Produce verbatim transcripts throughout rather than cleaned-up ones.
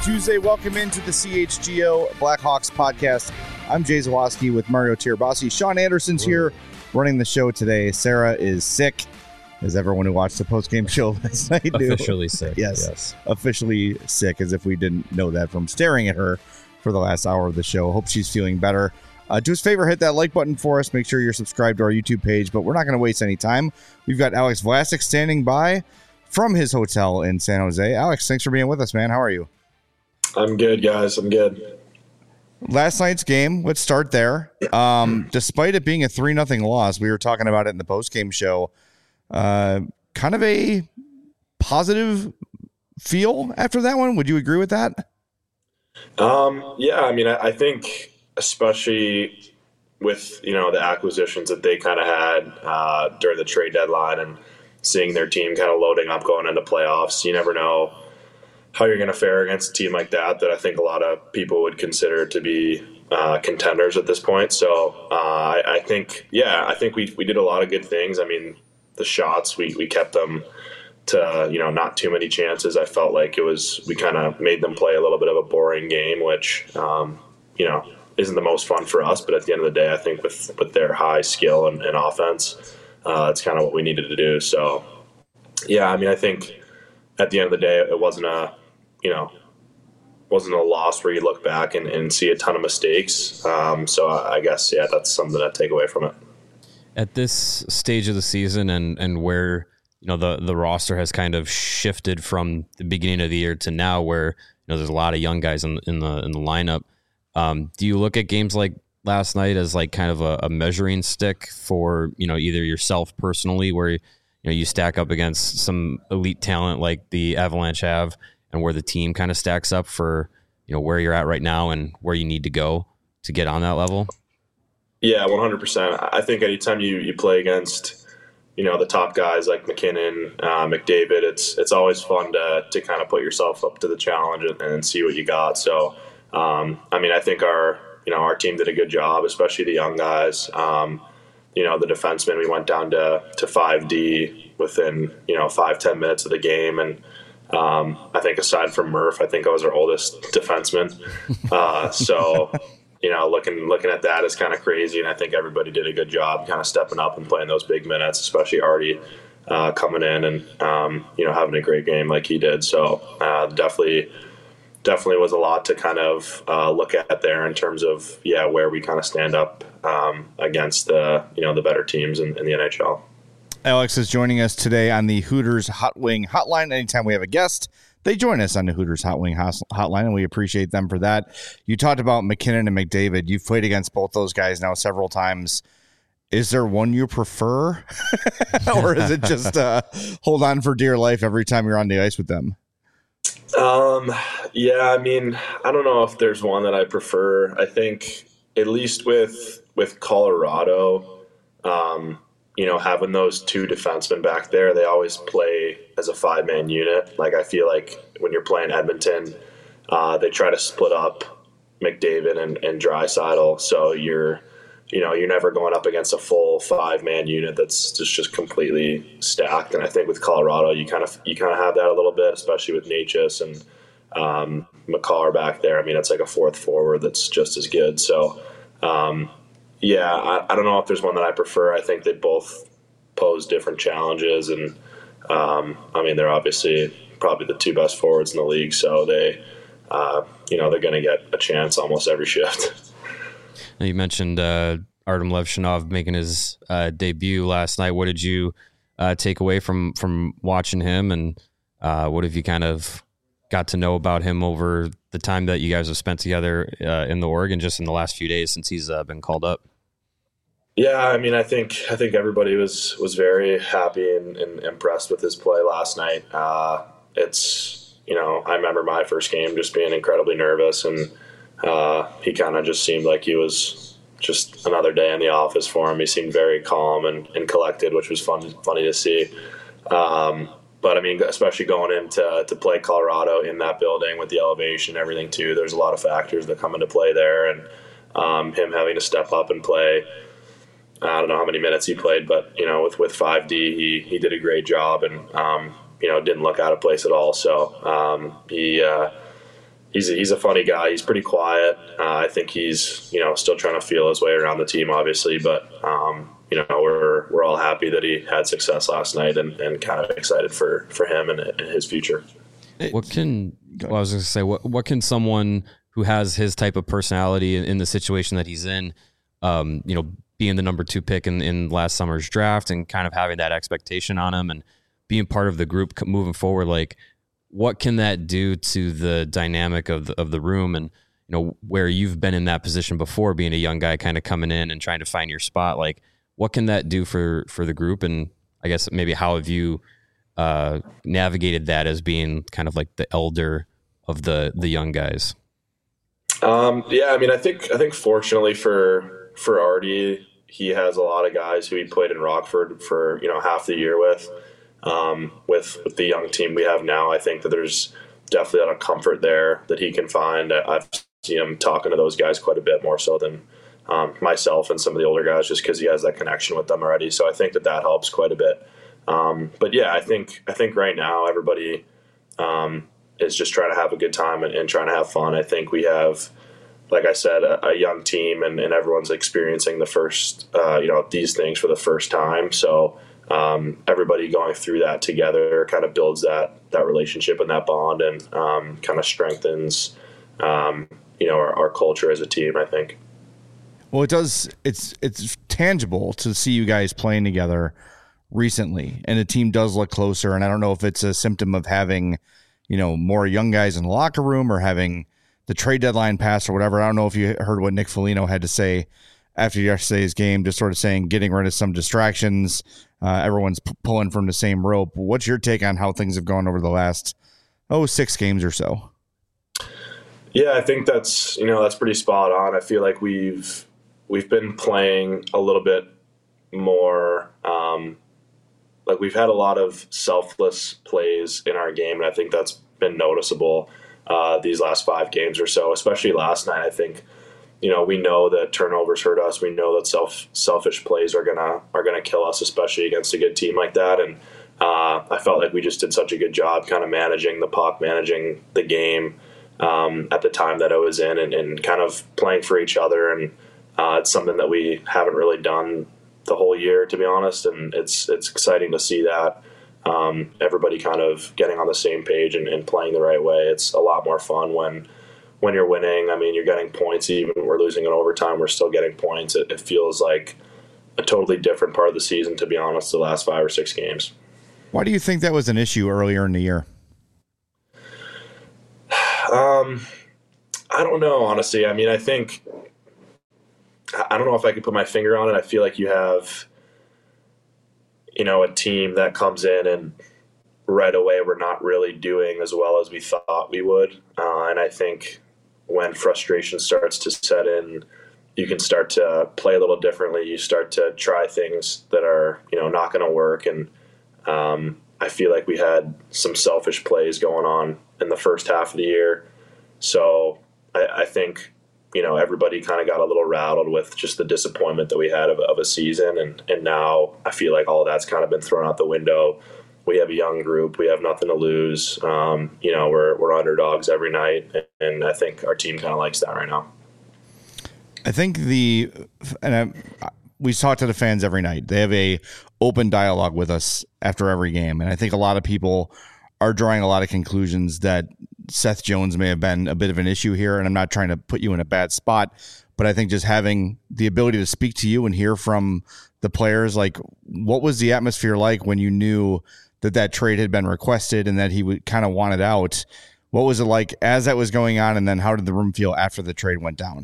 Tuesday. Welcome into the C H G O Blackhawks podcast. I'm Jay Zawaski with Mario Tirabassi. Sean Anderson's here running the show today. Sarah is sick, as everyone who watched the postgame show last night knew. Officially sick. Yes, yes, officially sick, as if we didn't know that from staring at her for the last hour of the show. Hope she's feeling better. Uh, do us a favor, hit that like button for us. Make sure you're subscribed to our YouTube page, but we're not going to waste any time. We've got Alex Vlasic standing by from his hotel in San Jose. Alex, thanks for being with us, man. How are you? I'm good, guys. I'm good. Last night's game, let's start there. Um, despite it being a three nothing loss, we were talking about it in the postgame show, uh, kind of a positive feel after that one. Would you agree with that? Um, yeah, I mean, I, I think especially with, you know, the acquisitions that they kind of had uh, during the trade deadline and seeing their team kind of loading up going into playoffs, you never know how you're going to fare against a team like that, that I think a lot of people would consider to be uh, contenders at this point. So uh, I, I think, yeah, I think we we did a lot of good things. I mean, the shots, we, we kept them to, you know, not too many chances. I felt like it was, we kind of made them play a little bit of a boring game, which, um, you know, isn't the most fun for us. But at the end of the day, I think with, with their high skill and, and offense, uh, that's kind of what we needed to do. So, yeah, I mean, I think at the end of the day, it wasn't a, you know, wasn't a loss where you look back and, and see a ton of mistakes. Um, so I guess, yeah, that's something to take away from it. At this stage of the season and, and where, you know, the, the roster has kind of shifted from the beginning of the year to now where, you know, there's a lot of young guys in, in the in the lineup. Um, do you look at games like last night as like kind of a, a measuring stick for, you know, either yourself personally where, you know, you stack up against some elite talent like the Avalanche have, and where the team kind of stacks up for, you know, where you're at right now and where you need to go to get on that level? Yeah, one hundred percent. I think anytime you, you play against, you know, the top guys like McKinnon, uh, McDavid, it's it's always fun to to kind of put yourself up to the challenge and, and see what you got. So, um, I mean, I think our, you know, our team did a good job, especially the young guys. Um, you know, the defensemen, we went down to, to five D within, you know, five, ten minutes of the game. And, Um, I think aside from Murph, I think I was our oldest defenseman. Uh, so, you know, looking looking at that is kind of crazy, and I think everybody did a good job kind of stepping up and playing those big minutes, especially Artie uh, coming in and, um, you know, having a great game like he did. So uh, definitely, definitely was a lot to kind of uh, look at there in terms of, yeah, where we kind of stand up um, against the, you know, the better teams in, in the N H L. Alex is joining us today on the Hooters Hot Wing Hotline. Anytime we have a guest, they join us on the Hooters Hot Wing Hotline, and we appreciate them for that. You talked about McKinnon and McDavid. You've played against both those guys now several times. Is there one you prefer, or is it just uh, hold on for dear life every time you're on the ice with them? Um, yeah, I mean, I don't know if there's one that I prefer. I think at least with with Colorado, um, you know, having those two defensemen back there, they always play as a five-man unit. Like, I feel like when you're playing Edmonton, uh, they try to split up McDavid and, and Draisaitl. So you're, you know, you're never going up against a full five-man unit that's just, just completely stacked. And I think with Colorado, you kind of you kind of have that a little bit, especially with Necas and um, McCarr back there. I mean, it's like a fourth forward that's just as good. So, um, Yeah, I, I don't know if there's one that I prefer. I think they both pose different challenges, and um, I mean, they're obviously probably the two best forwards in the league, so they, uh, you know, they're going to get a chance almost every shift. Now you mentioned uh, Artem Levshinov making his uh, debut last night. What did you uh, take away from from watching him, and uh, what have you kind of got to know about him over the time that you guys have spent together uh, in the Oregon, just in the last few days since he's uh, been called up? Yeah, I mean, I think I think everybody was was very happy and, and impressed with his play last night. Uh, it's, you know, I remember my first game just being incredibly nervous, and uh, he kind of just seemed like he was just another day in the office for him. He seemed very calm and, and collected, which was fun funny to see. Um, But, I mean, especially going into to play Colorado in that building with the elevation and everything, too, there's a lot of factors that come into play there. And um, him having to step up and play, I don't know how many minutes he played, but, you know, with, with five D, he, he did a great job and, um, you know, didn't look out of place at all. So um, he, uh, he's a, he's a funny guy. He's pretty quiet. Uh, I think he's, you know, still trying to feel his way around the team, obviously, but, um, you know, we're we're all happy that he had success last night and, and kind of excited for, for him and, and his future. What can well, I was going to say, what what can someone who has his type of personality in, in the situation that he's in, um, you know, being the number two pick in, in last summer's draft and kind of having that expectation on him and being part of the group moving forward, like what can that do to the dynamic of the, of the room and, you know, where you've been in that position before, being a young guy kind of coming in and trying to find your spot, like what can that do for, for the group? And I guess maybe how have you uh, navigated that as being kind of like the elder of the, the young guys? Um, yeah, I mean, I think, I think fortunately for, for Artie, he has a lot of guys who he played in Rockford for, you know, half the year with, um, with, with the young team we have now. I think that there's definitely a lot of comfort there that he can find. I've seen him talking to those guys quite a bit more so than, um, myself and some of the older guys, just because he has that connection with them already. So I think that that helps quite a bit. Um, but yeah, I think, I think right now everybody, um, is just trying to have a good time and, and trying to have fun. I think we have, like I said, a, a young team and, and everyone's experiencing the first, uh, you know, these things for the first time. So, um, everybody going through that together kind of builds that, that relationship and that bond and, um, kind of strengthens, um, you know, our, our culture as a team, I think. Well, it does. It's it's tangible to see you guys playing together recently, and the team does look closer. And I don't know if it's a symptom of having, you know, more young guys in the locker room or having the trade deadline pass or whatever. I don't know if you heard what Nick Foligno had to say after yesterday's game, just sort of saying getting rid of some distractions. Uh, everyone's p- pulling from the same rope. What's your take on how things have gone over the last, oh, six games or so? Yeah, I think that's, you know, that's pretty spot on. I feel like we've, we've been playing a little bit more, um, like we've had a lot of selfless plays in our game, and I think that's been noticeable uh, these last five games or so, especially last night. I think, you know, we know that turnovers hurt us. We know that self selfish plays are gonna are gonna kill us, especially against a good team like that. And uh, I felt like we just did such a good job kind of managing the puck, managing the game um, at the time that I was in, and, and kind of playing for each other. And uh, it's something that we haven't really done the whole year, to be honest. And it's it's exciting to see that. Um, everybody kind of getting on the same page and, and playing the right way. It's a lot more fun when when you're winning. I mean, you're getting points. Even when we're losing in overtime, we're still getting points. It, it feels like a totally different part of the season, to be honest, the last five or six games. Why do you think that was an issue earlier in the year? Um, I don't know, honestly. I mean, I think I don't know if I could put my finger on it. I feel like you have, you know, a team that comes in and right away we're not really doing as well as we thought we would. Uh, and I think when frustration starts to set in, you can start to play a little differently. You start to try things that are, you know, not going to work. And um, I feel like we had some selfish plays going on in the first half of the year. So I, I think, you know, everybody kind of got a little rattled with just the disappointment that we had of, of a season. And, and now I feel like all of that's kind of been thrown out the window. We have a young group. We have nothing to lose. Um, you know, we're, we're underdogs every night. And I think our team kind of likes that right now. I think the, and I, we talk to the fans every night. They have a open dialogue with us after every game. And I think a lot of people are drawing a lot of conclusions that Seth Jones may have been a bit of an issue here. And I'm not trying to put you in a bad spot, but I think just having the ability to speak to you and hear from the players, like what was the atmosphere like when you knew that that trade had been requested and that he would kind of wanted out? What was it like as that was going on? And then how did the room feel after the trade went down?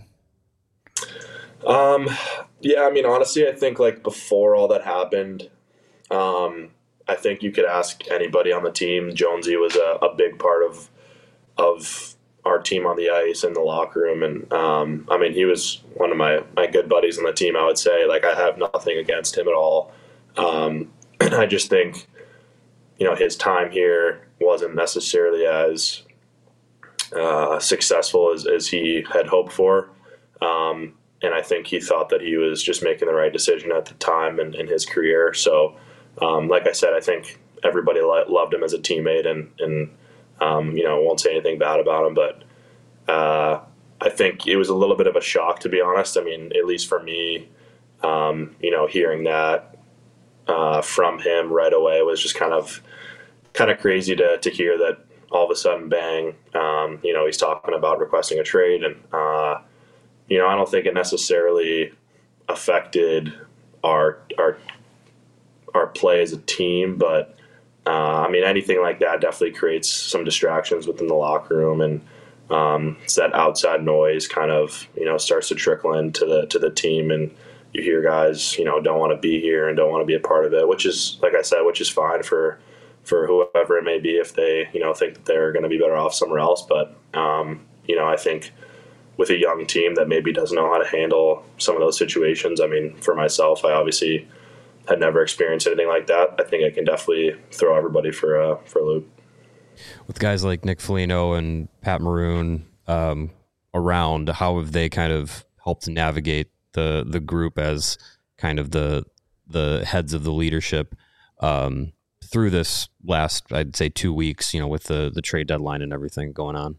Um, yeah, I mean, honestly, I think like before all that happened, um, I think you could ask anybody on the team. Jonesy was a, a big part of of our team on the ice and the locker room. And, um, I mean, he was one of my, my good buddies on the team, I would say. Like, I have nothing against him at all. Um, I just think, you know, his time here wasn't necessarily as uh, successful as, as he had hoped for. Um, and I think he thought that he was just making the right decision at the time in, in his career. So, um, like I said, I think everybody lo- loved him as a teammate and, and um, you know, won't say anything bad about him. But uh, I think it was a little bit of a shock, to be honest. I mean, at least for me, um, you know, hearing that uh, from him right away was just kind of kind of crazy to to hear that all of a sudden, bang, um, you know, he's talking about requesting a trade. And, uh, you know, I don't think it necessarily affected our our our play as a team, but uh, I mean, anything like that definitely creates some distractions within the locker room, and um, it's that outside noise kind of, you know, starts to trickle into the to the team, and you hear guys, you know, don't want to be here and don't want to be a part of it, which is, like I said, which is fine for for whoever it may be if they, you know, think that they're going to be better off somewhere else. But, um, you know, I think with a young team that maybe doesn't know how to handle some of those situations, I mean, for myself, I obviously had never experienced anything like that. I think I can definitely throw everybody for a, for a loop. With guys like Nick Foligno and Pat Maroon um, around, how have they kind of helped navigate the the group as kind of the the heads of the leadership um, through this last, I'd say, two weeks, you know, with the, the trade deadline and everything going on?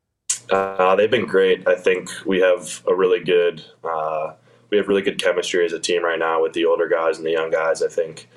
Uh, they've been great. I think we have a really good, uh, we have really good chemistry as a team right now with the older guys and the young guys. I think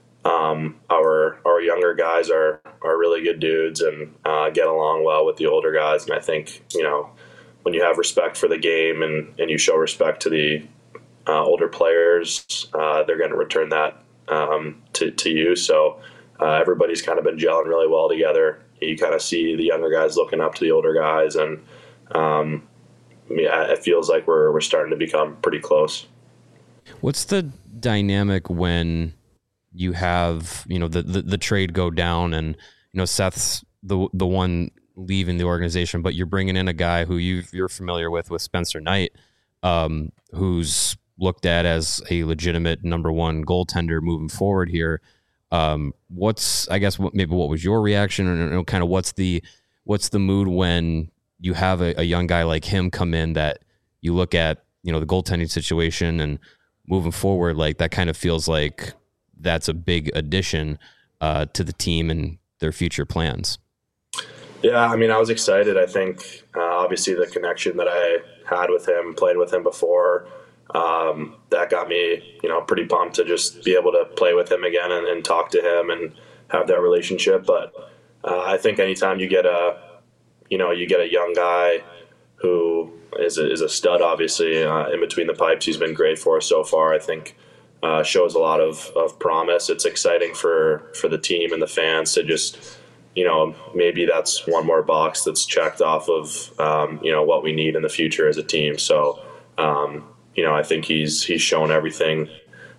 um, our our younger guys are are really good dudes and uh, get along well with the older guys. And I think, you know, when you have respect for the game and, and you show respect to the uh, older players, uh, they're going to return that um, to, to you. So uh, everybody's kind of been gelling really well together. You kind of see the younger guys looking up to the older guys, and um, yeah, it feels like we're we're starting to become pretty close. What's the dynamic when you have, you know, the, the, the trade go down and, you know, Seth's the the one leaving the organization, but you're bringing in a guy who you you're familiar with with Spencer Knight, um, who's looked at as a legitimate number one goaltender moving forward here. Um, what's, I guess, what, maybe what was your reaction, or you know, kind of what's the, what's the mood when you have a, a young guy like him come in that you look at, you know, the goaltending situation and moving forward, like that kind of feels like that's a big addition, uh, to the team and their future plans. Yeah. I mean, I was excited. I think, uh, obviously the connection that I had with him, played with him before, Um, that got me, you know, pretty pumped to just be able to play with him again and, and talk to him and have that relationship. But uh, I think anytime you get a, you know, you get a young guy who is a, is a stud, obviously, uh, in between the pipes, he's been great for us so far. I think uh, shows a lot of, of promise. It's exciting for, for the team and the fans to just, you know, maybe that's one more box that's checked off of, um, you know, what we need in the future as a team. So, um, you know, I think he's he's shown everything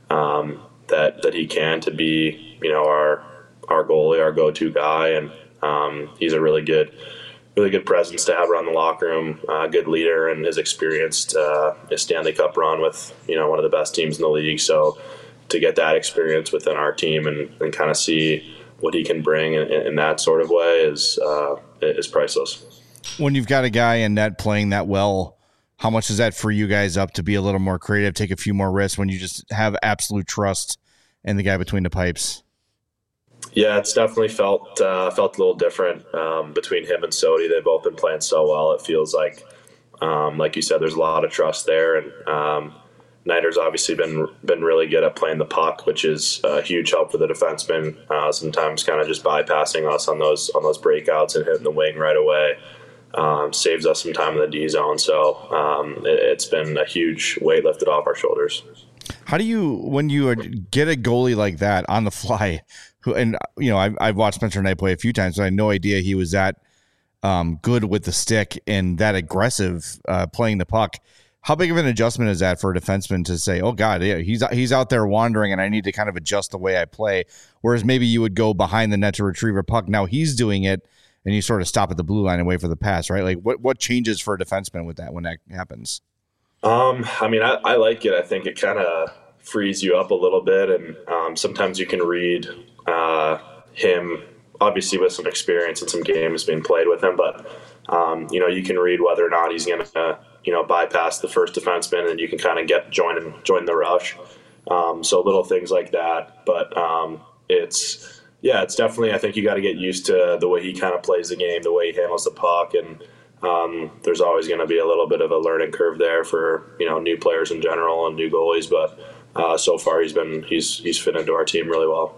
um, that that he can to be, you know, our our goalie, our go-to guy, and um, he's a really good, really good presence to have around the locker room. A uh, good leader, and his experienced uh, his Stanley Cup run with, you know, one of the best teams in the league. So to get that experience within our team and, and kind of see what he can bring in, in that sort of way is uh, is priceless. When you've got a guy in net playing that well, how much does that free you guys up to be a little more creative, take a few more risks when you just have absolute trust in the guy between the pipes? Yeah, it's definitely felt uh, felt a little different um, between him and Sodi. They've both been playing so well. It feels like, um, like you said, there's a lot of trust there. And um, Nider's obviously been been really good at playing the puck, which is a huge help for the defenseman. Uh, sometimes kind of just bypassing us on those on those breakouts and hitting the wing right away. Um, saves us some time in the D zone. So um, it, it's been a huge weight lifted off our shoulders. How do you, when you get a goalie like that on the fly, who, and you know, I've, I've watched Spencer Knight play a few times, so I had no idea he was that um, good with the stick and that aggressive uh, playing the puck. How big of an adjustment is that for a defenseman to say, oh God, yeah, he's, he's out there wandering and I need to kind of adjust the way I play. Whereas maybe you would go behind the net to retrieve a puck. Now he's doing it, and you sort of stop at the blue line and wait for the pass, right? Like, what what changes for a defenseman with that when that happens? Um, I mean, I, I like it. I think it kind of frees you up a little bit, and um, sometimes you can read uh, him, obviously with some experience and some games being played with him, but, um, you know, you can read whether or not he's going to, you know, bypass the first defenseman, and you can kind of get join and join the rush. Um, so little things like that, but um, it's – yeah, it's definitely, I think you got to get used to the way he kind of plays the game, the way he handles the puck. And Um, there's always going to be a little bit of a learning curve there for, you know, new players in general and new goalies. But uh, so far he's been he's he's fit into our team really well.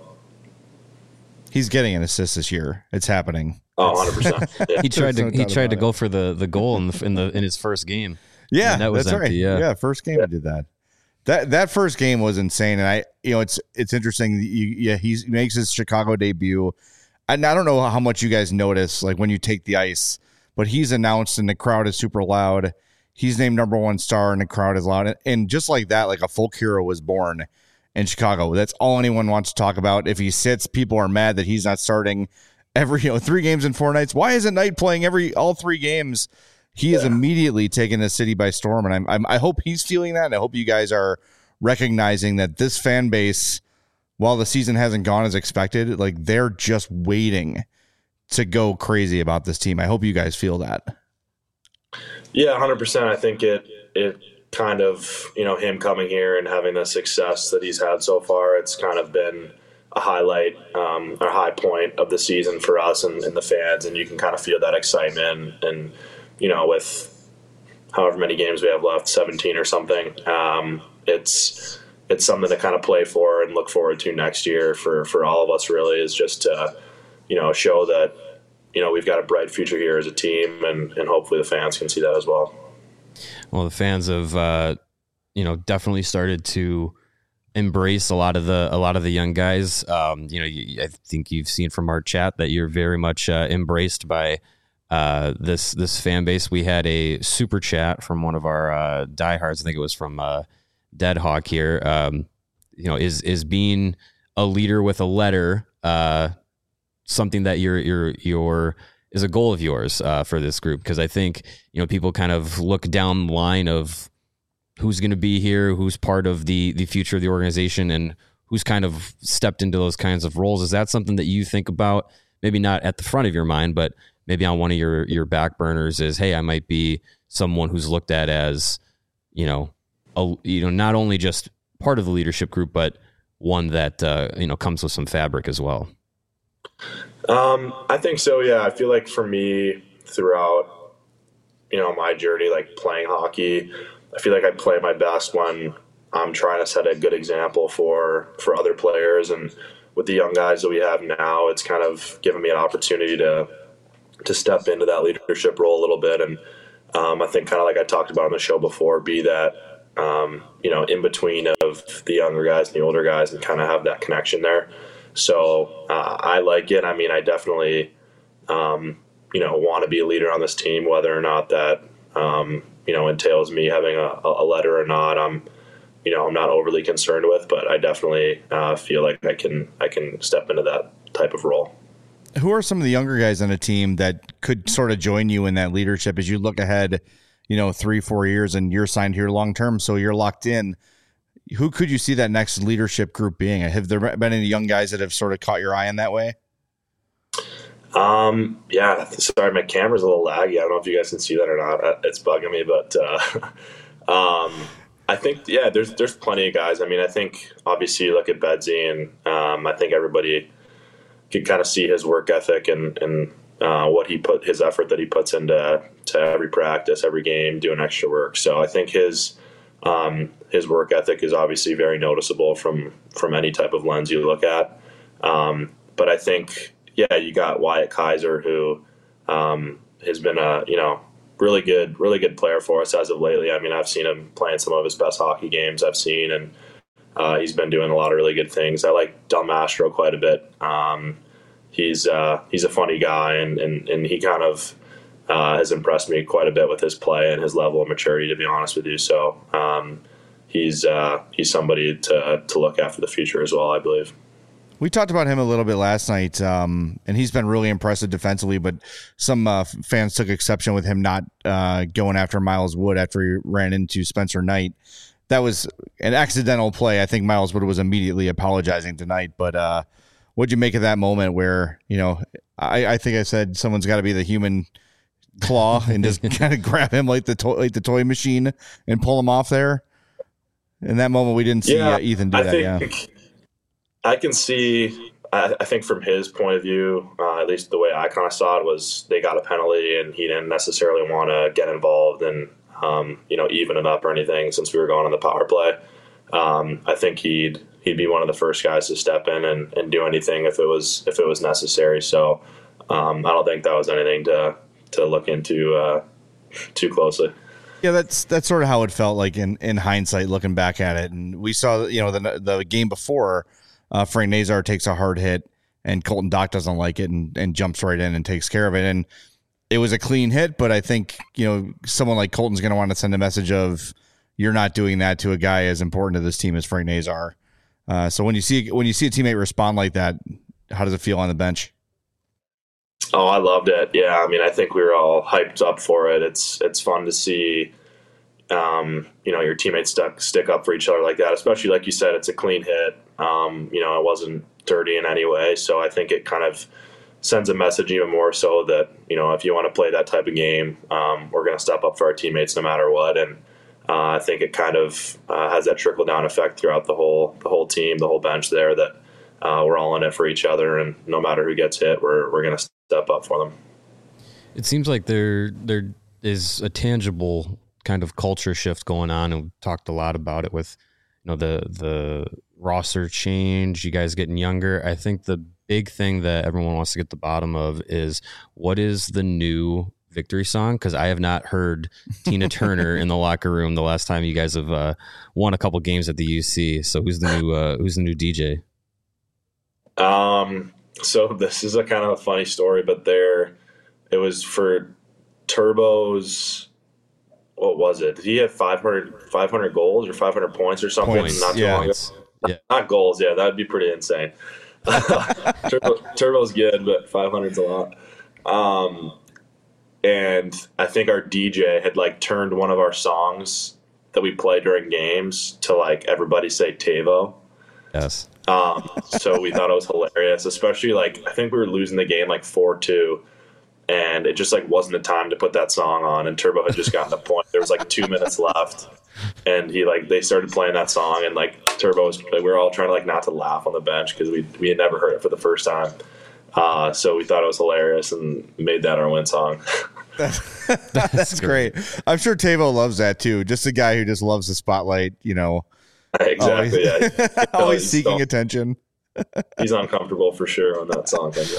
He's getting an assist this year. It's happening. Oh, one hundred percent. Yeah. He tried to no he doubt tried to about go it. for the, the goal in the in the in his first game. Yeah, And that was that's empty, right. yeah. first game he did that. That that first game was insane, and I, you know, it's it's interesting. that You, yeah, he's, he makes his Chicago debut, and I don't know how much you guys notice, like when you take the ice, but he's announced, and the crowd is super loud. He's named number one star, and the crowd is loud, and just like that, like a folk hero was born in Chicago. That's all anyone wants to talk about. If he sits, people are mad that he's not starting every, you know, three games in four nights. Why isn't Knight playing every all three games? He is Yeah. immediately taking the city by storm, and I'm, I'm I hope he's feeling that, and I hope you guys are recognizing that this fan base, while the season hasn't gone as expected, like they're just waiting to go crazy about this team. I hope you guys feel that. Yeah, one hundred percent. I think it it kind of, you know, him coming here and having the success that he's had so far, it's kind of been a highlight um, or high point of the season for us and, and the fans, and you can kind of feel that excitement. And, you know, with however many games we have left, seventeen or something, um, it's it's something to kind of play for and look forward to next year for, for all of us, really, is just to, you know, show that, you know, we've got a bright future here as a team, and, and hopefully the fans can see that as well. Well, the fans have, uh, you know, definitely started to embrace a lot of the a lot of the young guys. Um, you know, you, I think you've seen from our chat that you're very much uh, embraced by uh, this this fan base. We had a super chat from one of our uh, diehards. I think it was from uh, Dead Hawk here. Um, you know, is is being a leader with a letter uh, something that you're you're you're is a goal of yours uh, for this group? Because I think, you know, people kind of look down the line of who's going to be here, who's part of the the future of the organization, and who's kind of stepped into those kinds of roles. Is that something that you think about? Maybe not at the front of your mind, but maybe on one of your your back burners is, hey, I might be someone who's looked at as, you know, a, you know, not only just part of the leadership group, but one that uh, you know, comes with some fabric as well. Um, I think so. Yeah. I feel like for me throughout, you know, my journey, like playing hockey, I feel like I play my best when I'm trying to set a good example for, for other players. And with the young guys that we have now, it's kind of given me an opportunity to, to step into that leadership role a little bit. And, um, I think kind of like I talked about on the show before, be that, um, you know, in between of the younger guys and the older guys, and kind of have that connection there. So uh, I like it. I mean, I definitely, um, you know, want to be a leader on this team, whether or not that, um, you know, entails me having a, a letter or not. I'm, you know, I'm not overly concerned with, but I definitely uh, feel like I can, I can step into that type of role. Who are some of the younger guys on a team that could sort of join you in that leadership as you look ahead, you know, three, four years, and you're signed here long term, so you're locked in? Who could you see that next leadership group being? Have there been any young guys that have sort of caught your eye in that way? Um, yeah, sorry, my camera's a little laggy. I don't know if you guys can see that or not. It's bugging me, but, uh, um, I think, yeah, there's, there's plenty of guys. I mean, I think obviously you look at Bedsy, and, um, I think everybody can kind of see his work ethic and, and, uh, what he put, his effort that he puts into, to every practice, every game, doing extra work. So I think his, um, his work ethic is obviously very noticeable from, from any type of lens you look at. Um, but I think, yeah, you got Wyatt Kaiser, who um, has been a, you know, really good, really good player for us as of lately. I mean, I've seen him playing some of his best hockey games I've seen, and uh, he's been doing a lot of really good things. I like Del Mastro quite a bit. Um, he's uh, he's a funny guy, and, and, and he kind of uh, has impressed me quite a bit with his play and his level of maturity, to be honest with you. So um, he's uh, he's somebody to to look at for the future as well, I believe. We talked about him a little bit last night, um, and he's been really impressive defensively, but some uh, fans took exception with him not uh, going after Miles Wood after he ran into Spencer Knight. That was an accidental play. I think Miles Wood was immediately apologizing tonight, but uh, what'd you make of that moment where, you know, I, I think I said someone's got to be the human claw and just kind of grab him like the, to- like the toy machine and pull him off there? In that moment, we didn't see yeah, uh, Ethan do I that, think, yeah. I can see I, I think from his point of view, uh, at least the way I kind of saw it, was they got a penalty and he didn't necessarily want to get involved and, um, you know, even it up or anything since we were going on the power play. Um, I think he'd he'd be one of the first guys to step in and, and do anything if it was if it was necessary. So um, I don't think that was anything to to look into uh, too closely. Yeah, that's that's sort of how it felt like in, in hindsight, looking back at it. And we saw, you know, the the game before, uh, Frank Nazar takes a hard hit and Colton Dock doesn't like it and, and jumps right in and takes care of it. And it was a clean hit, but I think, you know, someone like Colton's going to want to send a message of, you're not doing that to a guy as important to this team as Frank Nazar. Uh, so when you see when you see a teammate respond like that, how does it feel on the bench? Oh, I loved it. Yeah, I mean, I think we were all hyped up for it. It's it's fun to see, um, you know, your teammates stuck, stick up for each other like that. Especially like you said, it's a clean hit. Um, you know, it wasn't dirty in any way. So I think it kind of sends a message even more so that, you know, if you want to play that type of game, um, we're going to step up for our teammates no matter what. And Uh, I think it kind of uh, has that trickle down effect throughout the whole the whole team, the whole bench there. That uh, we're all in it for each other, and no matter who gets hit, we're we're going to step up for them. It seems like there there is a tangible kind of culture shift going on, and we've talked a lot about it with, you know, the the roster change, you guys getting younger. I think the big thing that everyone wants to get to the bottom of is, what is the new victory song? Because I have not heard Tina Turner in the locker room the last time you guys have uh, won a couple games at the U C. So who's the new uh, who's the new D J? Um, so this is a kind of a funny story, but there, it was for Turbo's. What was it? Did he have five hundred, five hundred goals or five hundred points or something? Points, not too yeah. long ago. Yeah. Not goals. Yeah, that'd be pretty insane. Turbo, Turbo's good, but five hundred's a lot. Um, And I think our D J had like turned one of our songs that we play during games to like everybody say TAVO. Yes. Um, so we thought it was hilarious, especially like I think we were losing the game like four two, and it just like wasn't the time to put that song on. And Turbo had just gotten the point. There was like two minutes left, and he like they started playing that song, and like Turbo was like, we were all trying to like not to laugh on the bench because we we had never heard it for the first time. Uh, so we thought it was hilarious and made that our win song. That's, That's great. I'm sure Tavo loves that too. Just a guy who just loves the spotlight, you know. Exactly. Always, yeah. always seeking so, attention. He's uncomfortable for sure when that song comes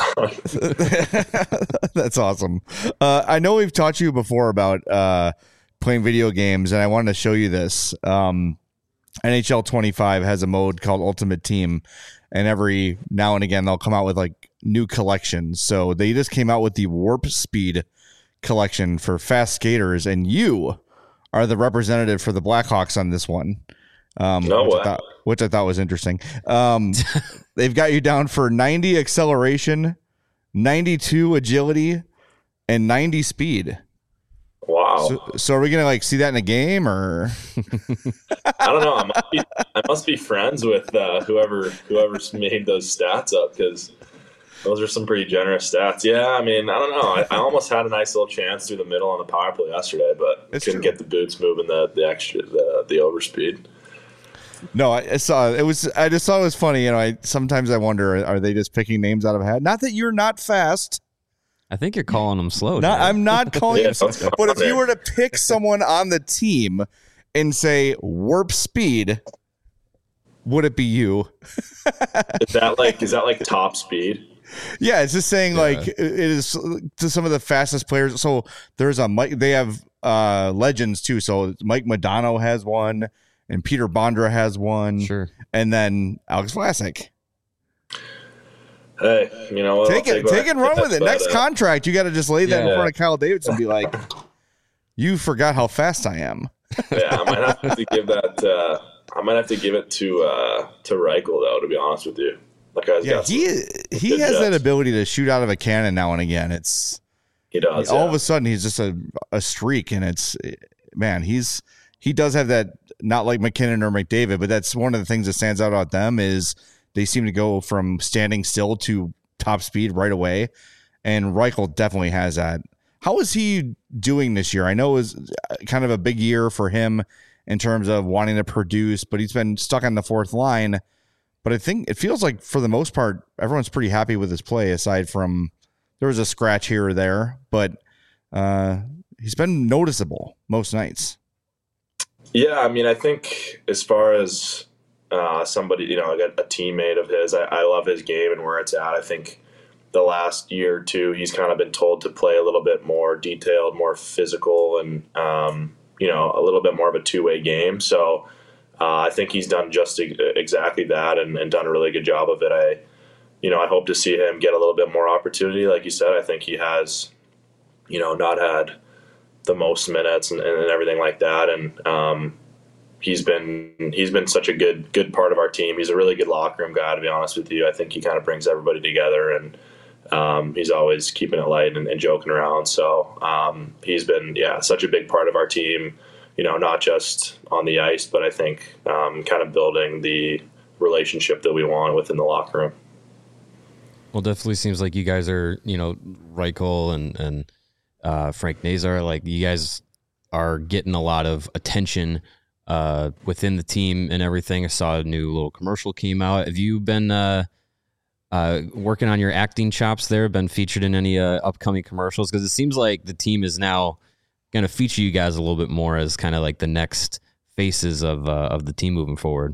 on. That's awesome. Uh, I know we've taught you before about uh, playing video games, and I wanted to show you this. Um, N H L twenty-five has a mode called Ultimate Team, and every now and again they'll come out with like new collections. So they just came out with the Warp Speed collection for fast skaters, and you are the representative for the Blackhawks on this one. Um, no which, way. I thought, which I thought was interesting. Um, they've got you down for ninety acceleration, ninety-two agility, and ninety speed. Wow. So, so are we gonna like see that in a game, or? I don't know. I must be, I must be friends with uh, whoever whoever's made those stats up, because those are some pretty generous stats. Yeah, I mean, I don't know. I, I almost had a nice little chance through the middle on the power play yesterday, but it's couldn't true. get the boots moving the the extra the the overspeed. No, I, I saw it was. I just thought it was funny. You know, I sometimes I wonder, are they just picking names out of a hat? Not that you're not fast. I think you're calling them slow. Not, I'm not calling Yeah, him, that's but if there. you were to pick someone on the team and say warp speed, would it be you? Is that like is that like top speed? Yeah, it's just saying Yeah. like it is to some of the fastest players. So there's a Mike. They have uh, legends too. So Mike Modano has one, and Peter Bondra has one, Sure. and then Alex Vlasic. Hey, you know what? Take I'll it, what take I it, run get, with it. but, Next uh, contract, you got to just lay that in Yeah. front of Kyle Davidson and be like, "You forgot how fast I am." Yeah, I might have to give that. Uh, I might have to give it to uh, to Reichel though. To be honest with you, that guy's Yeah, got some- he he good has that jets. ability to shoot out of a cannon now and again. It's He does. all yeah. of a sudden he's just a a streak, and it's man, he's he does have that. Not like McKinnon or McDavid, but that's one of the things that stands out about them is they seem to go from standing still to top speed right away, and Reichel definitely has that. How is he doing this year? I know it was kind of a big year for him in terms of wanting to produce, but he's been stuck on the fourth line. but I think it feels like for the most part, everyone's pretty happy with his play, aside from there was a scratch here or there, but uh, he's been noticeable most nights. Yeah, I mean, I think as far as uh, somebody, you know, a, a teammate of his, I, I love his game and where it's at. I think the last year or two, he's kind of been told to play a little bit more detailed, more physical, and, um, you know, a little bit more of a two-way game. So uh, I think he's done just exactly that and, and done a really good job of it. I, you know, I hope to see him get a little bit more opportunity. Like you said, I think he has, you know, not had the most minutes and, and everything like that. And um, he's been he's been such a good good part of our team. He's a really good locker room guy, to be honest with you. I think he kind of brings everybody together, and um, he's always keeping it light and, and joking around. So um, he's been, yeah, such a big part of our team, you know, not just on the ice, but I think um, kind of building the relationship that we want within the locker room. Well, definitely seems like you guys are, you know, Reichel and, and uh, Frank Nazar, like you guys are getting a lot of attention uh, within the team and everything. I saw a new little commercial came out. Have you been uh, uh, working on your acting chops there? Been featured in any uh, upcoming commercials? Because it seems like the team is now going to feature you guys a little bit more as kind of like the next faces of uh, of the team moving forward.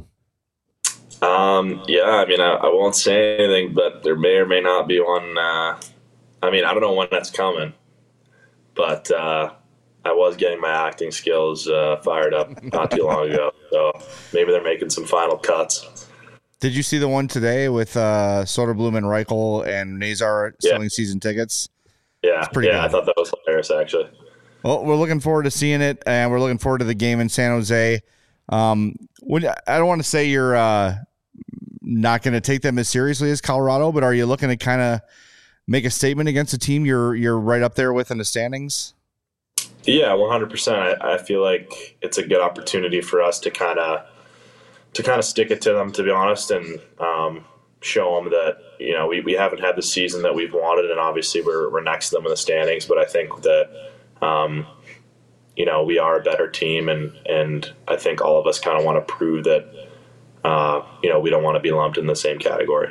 Um, yeah, I mean, I, I won't say anything, but there may or may not be one. Uh, I mean, I don't know when that's coming, but uh, I was getting my acting skills uh, fired up not too long ago. So maybe they're making some final cuts. Did you see the one today with uh, Soderblom and Reichel and Nazar selling yeah. season tickets? Yeah, pretty yeah, good. I thought that was hilarious, actually. Well, we're looking forward to seeing it, and we're looking forward to the game in San Jose. Um, would, I don't want to say you're uh, not going to take them as seriously as Colorado, but are you looking to kind of make a statement against a team you're you're right up there with in the standings? Yeah, one hundred percent. I, I feel like it's a good opportunity for us to kind of to kind of stick it to them, to be honest, and um, show them that, you know, we, we haven't had the season that we've wanted, and obviously we're we're next to them in the standings, but I think that um, you know, we are a better team, and and I think all of us kind of want to prove that uh, you know, we don't want to be lumped in the same category.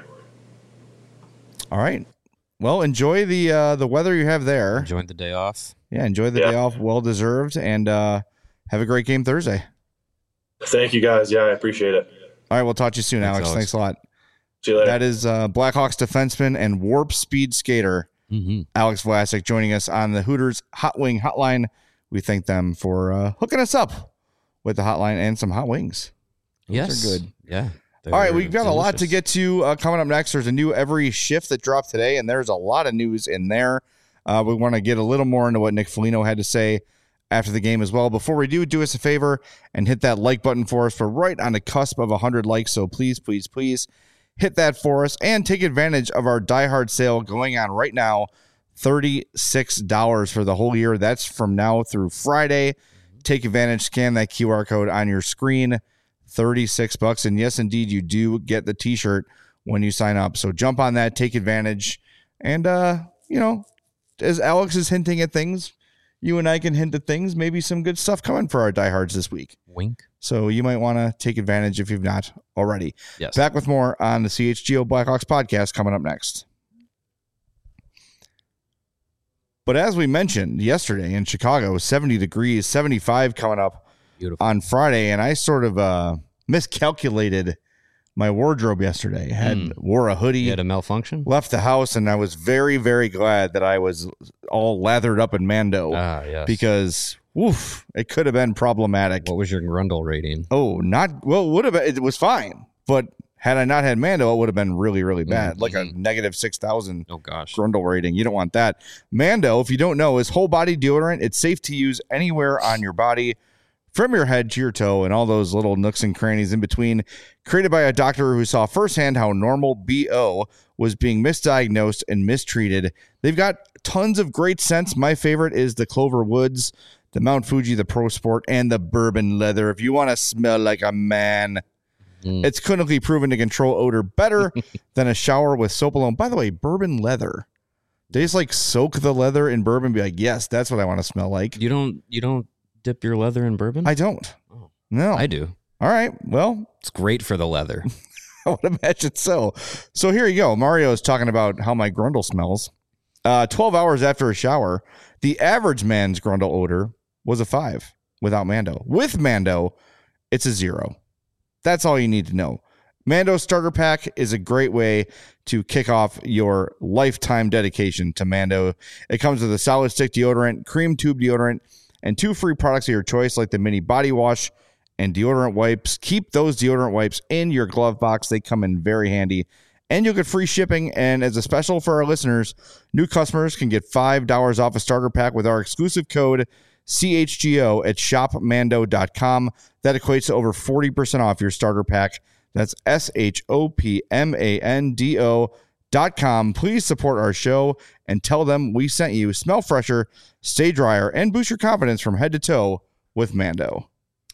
All right. Well, enjoy the uh, the weather you have there. Enjoy the day off. Yeah, enjoy the yeah. day off. Well deserved, and uh, have a great game Thursday. Thank you, guys. Yeah, I appreciate it. All right, we'll talk to you soon, Thanks, Alex. Alex. Thanks a lot. See you later. That is uh, Blackhawks defenseman and warp speed skater mm-hmm. Alex Vlasic joining us on the Hooters Hot Wing Hotline. We thank them for uh, hooking us up with the hotline and some hot wings. Those yes, are good. Yeah. All right, we've got delicious. a lot to get to uh, coming up next. There's a new Every Shift that dropped today, and there's a lot of news in there. Uh, we want to get a little more into what Nick Foligno had to say after the game as well. Before we do, do us a favor and hit that like button for us. We're right on the cusp of one hundred likes, so please, please, please hit that for us and take advantage of our Die Hard sale going on right now. thirty-six dollars for the whole year. That's from now through Friday. Take advantage, scan that Q R code on your screen. thirty-six bucks. And yes, indeed, you do get the t-shirt when you sign up. So jump on that, take advantage. And, uh, you know, as Alex is hinting at things, you and I can hint at things, maybe some good stuff coming for our diehards this week. Wink. So you might want to take advantage if you've not already. Yes. Back with more on the C H G O Blackhawks podcast coming up next. But as we mentioned yesterday in Chicago, seventy degrees, seventy-five coming up Beautiful. on Friday, and I sort of uh, miscalculated my wardrobe yesterday. I had mm. wore a hoodie. You had a malfunction? Left the house, and I was very, very glad that I was all lathered up in Mando. Ah, yes. Because, woof, it could have been problematic. What was your Grundle rating? Oh, not, well, would have been, it was fine. But had I not had Mando, it would have been really, really bad. Mm-hmm. Like a negative six thousand oh, gosh. Grundle rating. You don't want that. Mando, if you don't know, is whole body deodorant. It's safe to use anywhere on your body, from your head to your toe and all those little nooks and crannies in between. Created by a doctor who saw firsthand how normal B O was being misdiagnosed and mistreated. They've got tons of great scents. My favorite is the Clover Woods, the Mount Fuji, the Pro Sport, and the Bourbon Leather. If you want to smell like a man, mm. it's clinically proven to control odor better than a shower with soap alone. By the way, Bourbon Leather. They just like soak the leather in bourbon and be like, yes, that's what I want to smell like. You don't, you don't dip your leather in bourbon? I don't. Oh. No. I do. All right. Well, it's great for the leather. I would imagine so. So here you go. Mario is talking about how my grundle smells. Uh, twelve hours after a shower, the average man's grundle odor was a five without Mando. With Mando, it's a zero. That's all you need to know. Mando Starter Pack is a great way to kick off your lifetime dedication to Mando. It comes with a solid stick deodorant, cream tube deodorant, and two free products of your choice like the mini body wash and deodorant wipes. Keep those deodorant wipes in your glove box. They come in very handy. And you'll get free shipping. And as a special for our listeners, new customers can get five dollars off a starter pack with our exclusive code C H G O at shop mando dot com. That equates to over forty percent off your starter pack. That's S H O P M A N D O dot com. Please support our show and tell them we sent you. Smell fresher, stay drier, and boost your confidence from head to toe with Mando.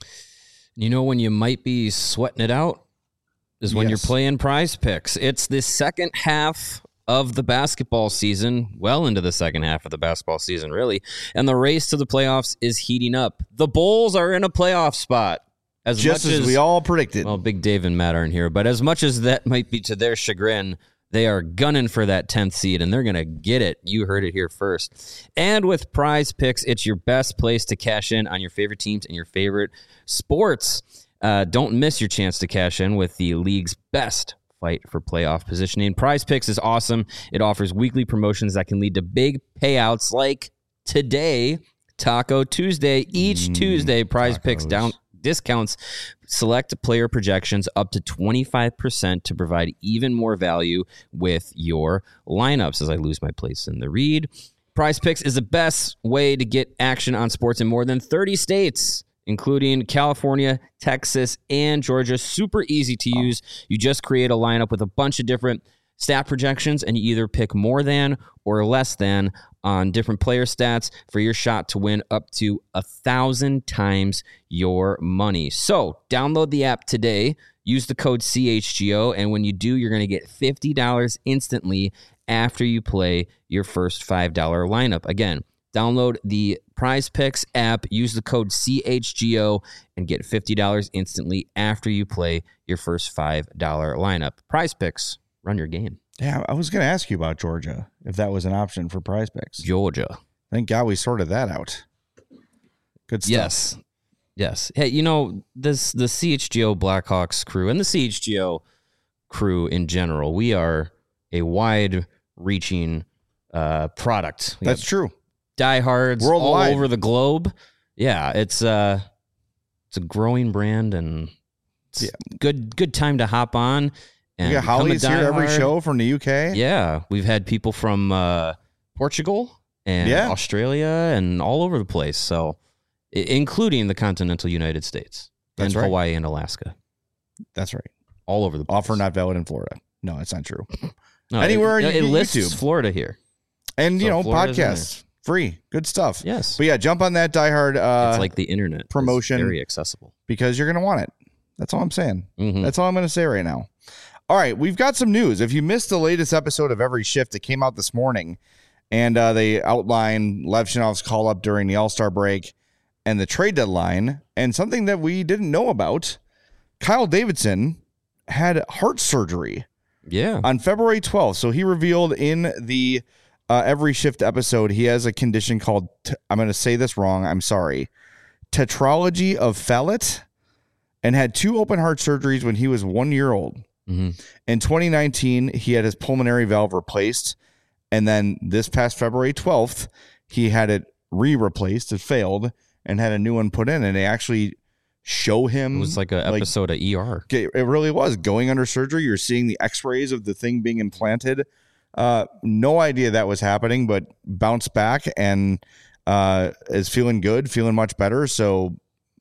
You know when you might be sweating it out? Is when Yes. you're playing Prize Picks. It's the second half of the basketball season, well into the second half of the basketball season, really. And the race to the playoffs is heating up. The Bulls are in a playoff spot. As Just much as, as we all predicted. Well, Big Dave and Matt aren't here, but as much as that might be to their chagrin, they are gunning for that tenth seed, and they're going to get it. You heard it here first. And with Prize Picks, it's your best place to cash in on your favorite teams and your favorite sports. Uh, don't miss your chance to cash in with the league's best fight for playoff positioning. Prize Picks is awesome. It offers weekly promotions that can lead to big payouts like today, Taco Tuesday. Each Mm, Tuesday, Prize tacos. Picks down discounts select player projections up to twenty-five percent to provide even more value with your lineups. As I lose my place in the read, Prize Picks is the best way to get action on sports in more than thirty states, including California, Texas, and Georgia. Super easy to use. You just create a lineup with a bunch of different stat projections, and you either pick more than or less than on different player stats for your shot to win up to a thousand times your money. So download the app today, use the code C H G O, and when you do, you're going to get fifty dollars instantly after you play your first five dollar lineup. Again, download the Prize Picks app, use the code C H G O, and get fifty dollars instantly after you play your first five dollar lineup. Prize Picks, run your game. Yeah, I was going to ask you about Georgia, if that was an option for Prize Picks. Georgia. Thank God we sorted that out. Good stuff. Yes. Yes. Hey, you know, this the C H G O Blackhawks crew and the C H G O crew in general, we are a wide-reaching uh, product. We That's have true. diehards Worldwide. all over the globe. Yeah, it's uh it's a growing brand, and it's Yeah. good good time to hop on. And We got become a Holly's here every diehard. show from the U K. Yeah, we've had people from uh, Portugal and Yeah. Australia and all over the place. So, I- including the continental United States That's and right. Hawaii and Alaska, That's right. all over the place. Offer not valid in Florida. No, it's not true. No, anywhere it, you it get lists YouTube. Florida here. And, you So know, Florida's in podcasts. Free. Good stuff. Yes, But yeah, jump on that diehard uh, it's like the internet It's promotion. very accessible. because you're going to want it. That's all I'm saying. Mhm. That's all I'm going to say right now. All right, we've got some news. If you missed the latest episode of Every Shift, it came out this morning, and uh, they outlined Lev Shinov's call-up during the All-Star break and the trade deadline, and something that we didn't know about, Kyle Davidson had heart surgery Yeah, on February twelfth. So he revealed in the uh, Every Shift episode, he has a condition called, t- I'm going to say this wrong, I'm sorry, tetralogy of Fallot, and had two open heart surgeries when he was one year old. hmm In twenty nineteen, he had his pulmonary valve replaced. And then this past February twelfth, he had it re-replaced. It failed and had a new one put in. And they actually show him. it was like an episode of E R. It really was. Going under surgery, you're seeing the x-rays of the thing being implanted. Uh, no idea that was happening, but bounced back and uh, is feeling good, feeling much better. So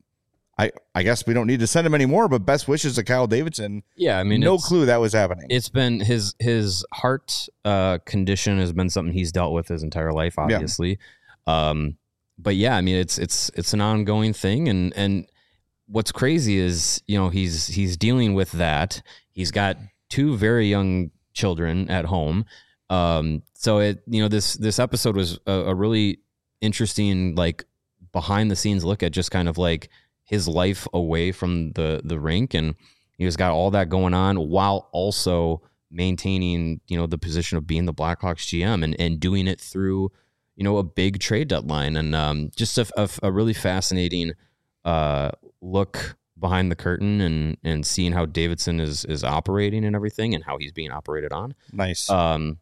I I guess we don't need to send him anymore, but best wishes to Kyle Davidson. Yeah, I mean, no it's- clue that was happening. It's been his his heart uh, condition has been something he's dealt with his entire life, obviously. Um, but yeah, I mean, it's it's it's an ongoing thing, and and what's crazy is you know he's he's dealing with that. He's got two very young children at home, um, so it you know this this episode was a, a really interesting like behind the scenes look at just kind of like his life away from the the rink, and He's got all that going on while also maintaining, you know, the position of being the Blackhawks G M and, and doing it through, you know, a big trade deadline. And um, just a, a, a really fascinating uh, look behind the curtain and, and seeing how Davidson is, is operating and everything and how he's being operated on. Nice. Um,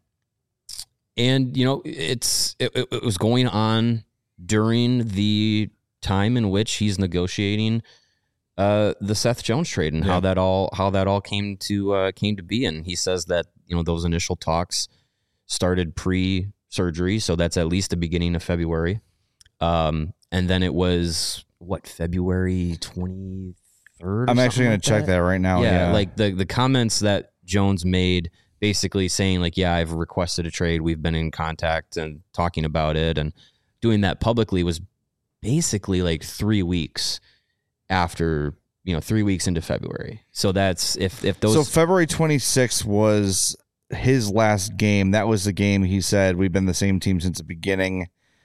and, you know, it's, it, it was going on during the time in which he's negotiating uh, the Seth Jones trade and yeah. how that all, how that all came to, uh, came to be. And he says that, you know, those initial talks started pre surgery. So that's at least the beginning of February. Um, and then it was what, February twenty-third? I'm actually going like to check that right now. Yeah, yeah. Like the, the comments that Jones made basically saying like, yeah, I've requested a trade. We've been in contact and talking about it, and doing that publicly was basically like three weeks after, you know, three weeks into February. So that's if, if those, so February twenty-sixth was his last game. That was the game he said, we've been the same team since the beginning.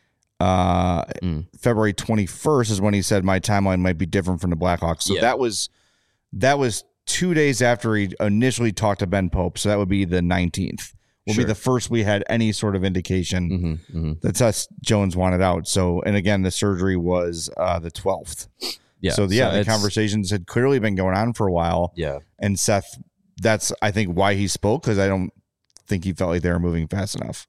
Uh, mm. February twenty-first is when he said my timeline might be different from the Blackhawks. So yeah. that was, that was two days after he initially talked to Ben Pope. So that would be the nineteenth. Will sure. be the first we had any sort of indication mm-hmm, mm-hmm. that Seth Jones wanted out. So, and again, the surgery was uh, the twelfth. Yeah. So, yeah, so the conversations had clearly been going on for a while. Yeah. And Seth, that's, I think, why he spoke, because I don't think he felt like they were moving fast enough.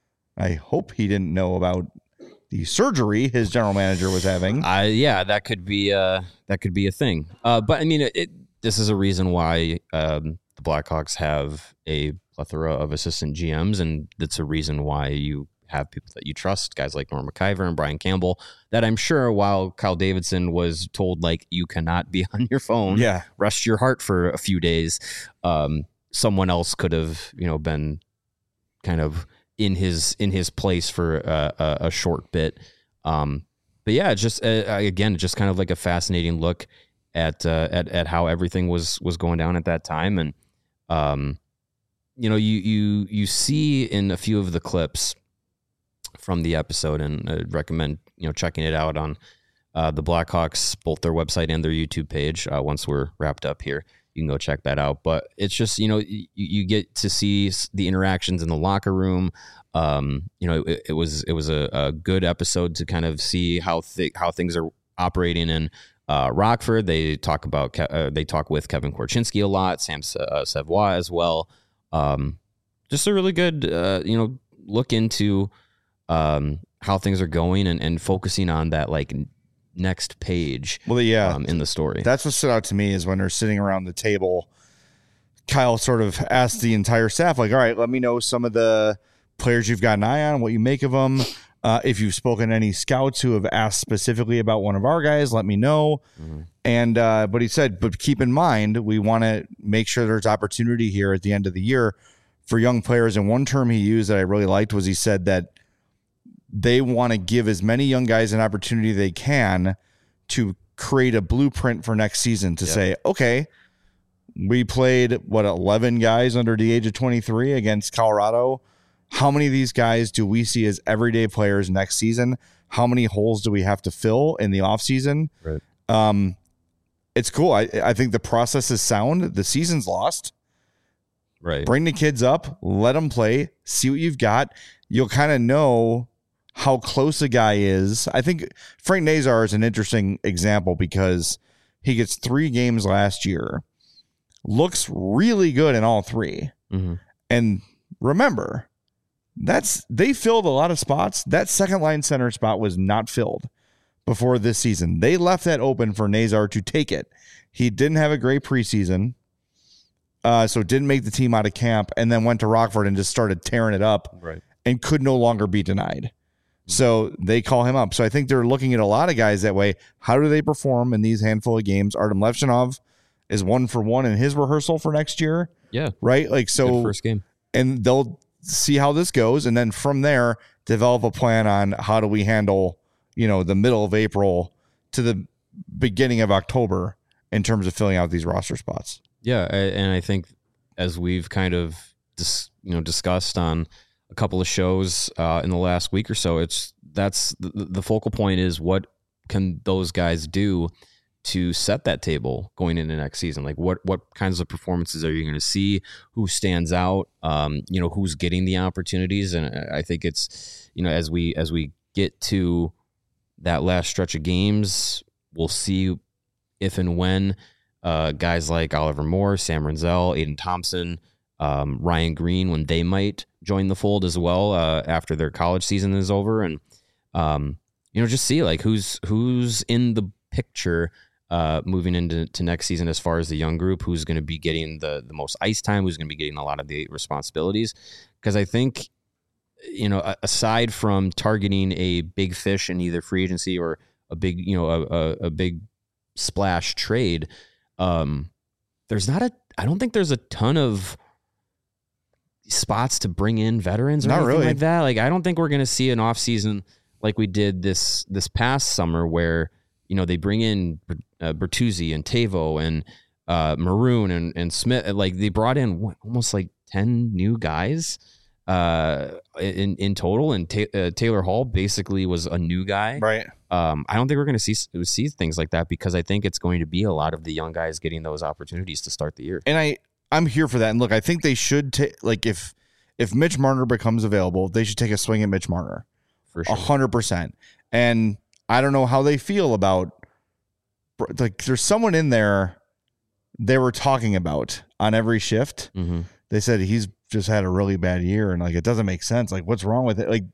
I hope he didn't know about the surgery his general manager was having. Uh, yeah, that could be uh, that could be a thing. Uh, but, I mean, it, it, this is a reason why um, the Blackhawks have a plethora of assistant G Ms, and that's a reason why you have people that you trust, guys like Norm McIver and Brian Campbell, that I'm sure while Kyle Davidson was told, like, you cannot be on your phone, yeah, rest your heart for a few days, um, someone else could have, you know, been kind of in his in his place for a, a, a short bit. Um, but yeah, just uh, again, just kind of like a fascinating look at uh, at at how everything was was going down at that time. And um, you know, you you you see in a few of the clips from the episode, and I'd recommend, you know, checking it out on uh, the Blackhawks, both their website and their YouTube page. Uh, once we're wrapped up here, you can go check that out. But it's just, you know, you, you get to see the interactions in the locker room. Um, you know, it, it was it was a, a good episode to kind of see how th- how things are operating in uh, Rockford. They talk about Ke- uh, they talk with Kevin Korchinski a lot, Sam uh, Savoie as well. Um, just a really good, uh, you know, look into um, how things are going and, and focusing on that, like, next page. Well, yeah, um, in the story. That's what stood out to me is when they're sitting around the table, Kyle sort of asked the entire staff, like, all right, let me know some of the players you've got an eye on, what you make of them. Uh, if you've spoken to any scouts who have asked specifically about one of our guys, let me know. Mm-hmm. And, uh, but he said, but keep in mind, we want to make sure there's opportunity here at the end of the year for young players. And one term he used that I really liked was he said that they want to give as many young guys an opportunity they can to create a blueprint for next season to yep. say, okay, we played what, eleven guys under the age of twenty-three against Colorado. How many of these guys do we see as everyday players next season? How many holes do we have to fill in the off season? Right. Um, it's cool. I, I think the process is sound. The season's lost. Right. Bring the kids up, let them play, see what you've got. You'll kind of know how close a guy is. I think Frank Nazar is an interesting example because he gets three games last year, looks really good in all three. Mm-hmm. And remember, that's they filled a lot of spots. That second line center spot was not filled before this season. They left that open for Nazar to take it. He didn't have a great preseason, uh, so didn't make the team out of camp, and then went to Rockford and just started tearing it up, right, and could no longer be denied. So they call him up. So I think they're looking at a lot of guys that way. How do they perform in these handful of games? Artem Levchinov is one for one in his rehearsal for next year. Yeah. Right? Like, so good first game. And they'll see how this goes. And then from there, develop a plan on how do we handle, you know, the middle of April to the beginning of October in terms of filling out these roster spots. Yeah. And I think as we've kind of, dis, you know, discussed on a couple of shows uh, in the last week or so, it's that's the, the focal point is what can those guys do to set that table going into next season. Like what what kinds of performances are you going to see? Who stands out? Um, you know, who's getting the opportunities? And I think it's, you know, as we as we get to that last stretch of games, we'll see if and when uh, guys like Oliver Moore, Sam Renzel, Aiden Thompson, um, Ryan Green, when they might join the fold as well uh, after their college season is over, and um, you know, just see like who's who's in the picture uh, moving into to next season as far as the young group, who's going to be getting the the most ice time, who's going to be getting a lot of the responsibilities. Because I think, you know, aside from targeting a big fish in either free agency or a big, you know, a, a, a big splash trade, um, there's not a, I don't think there's a ton of spots to bring in veterans or not anything really. like that. Like, I don't think we're going to see an off season like we did this, this past summer where, you know, they bring in uh, Bertuzzi and Tavo and uh, Maroon and, and Smith. Like they brought in what, almost like ten new guys uh, in, in total. And ta- uh, Taylor Hall basically was a new guy. Right. Um, I don't think we're going to see see things like that because I think it's going to be a lot of the young guys getting those opportunities to start the year. And I, I'm here for that. And look, I think they should take, like, if if Mitch Marner becomes available, they should take a swing at Mitch Marner. For A sure. hundred percent. And I don't know how they feel about, like, there's someone in there they were talking about on every shift. Mm-hmm. They said he's just had a really bad year, and like it doesn't make sense. Like, what's wrong with it? Like,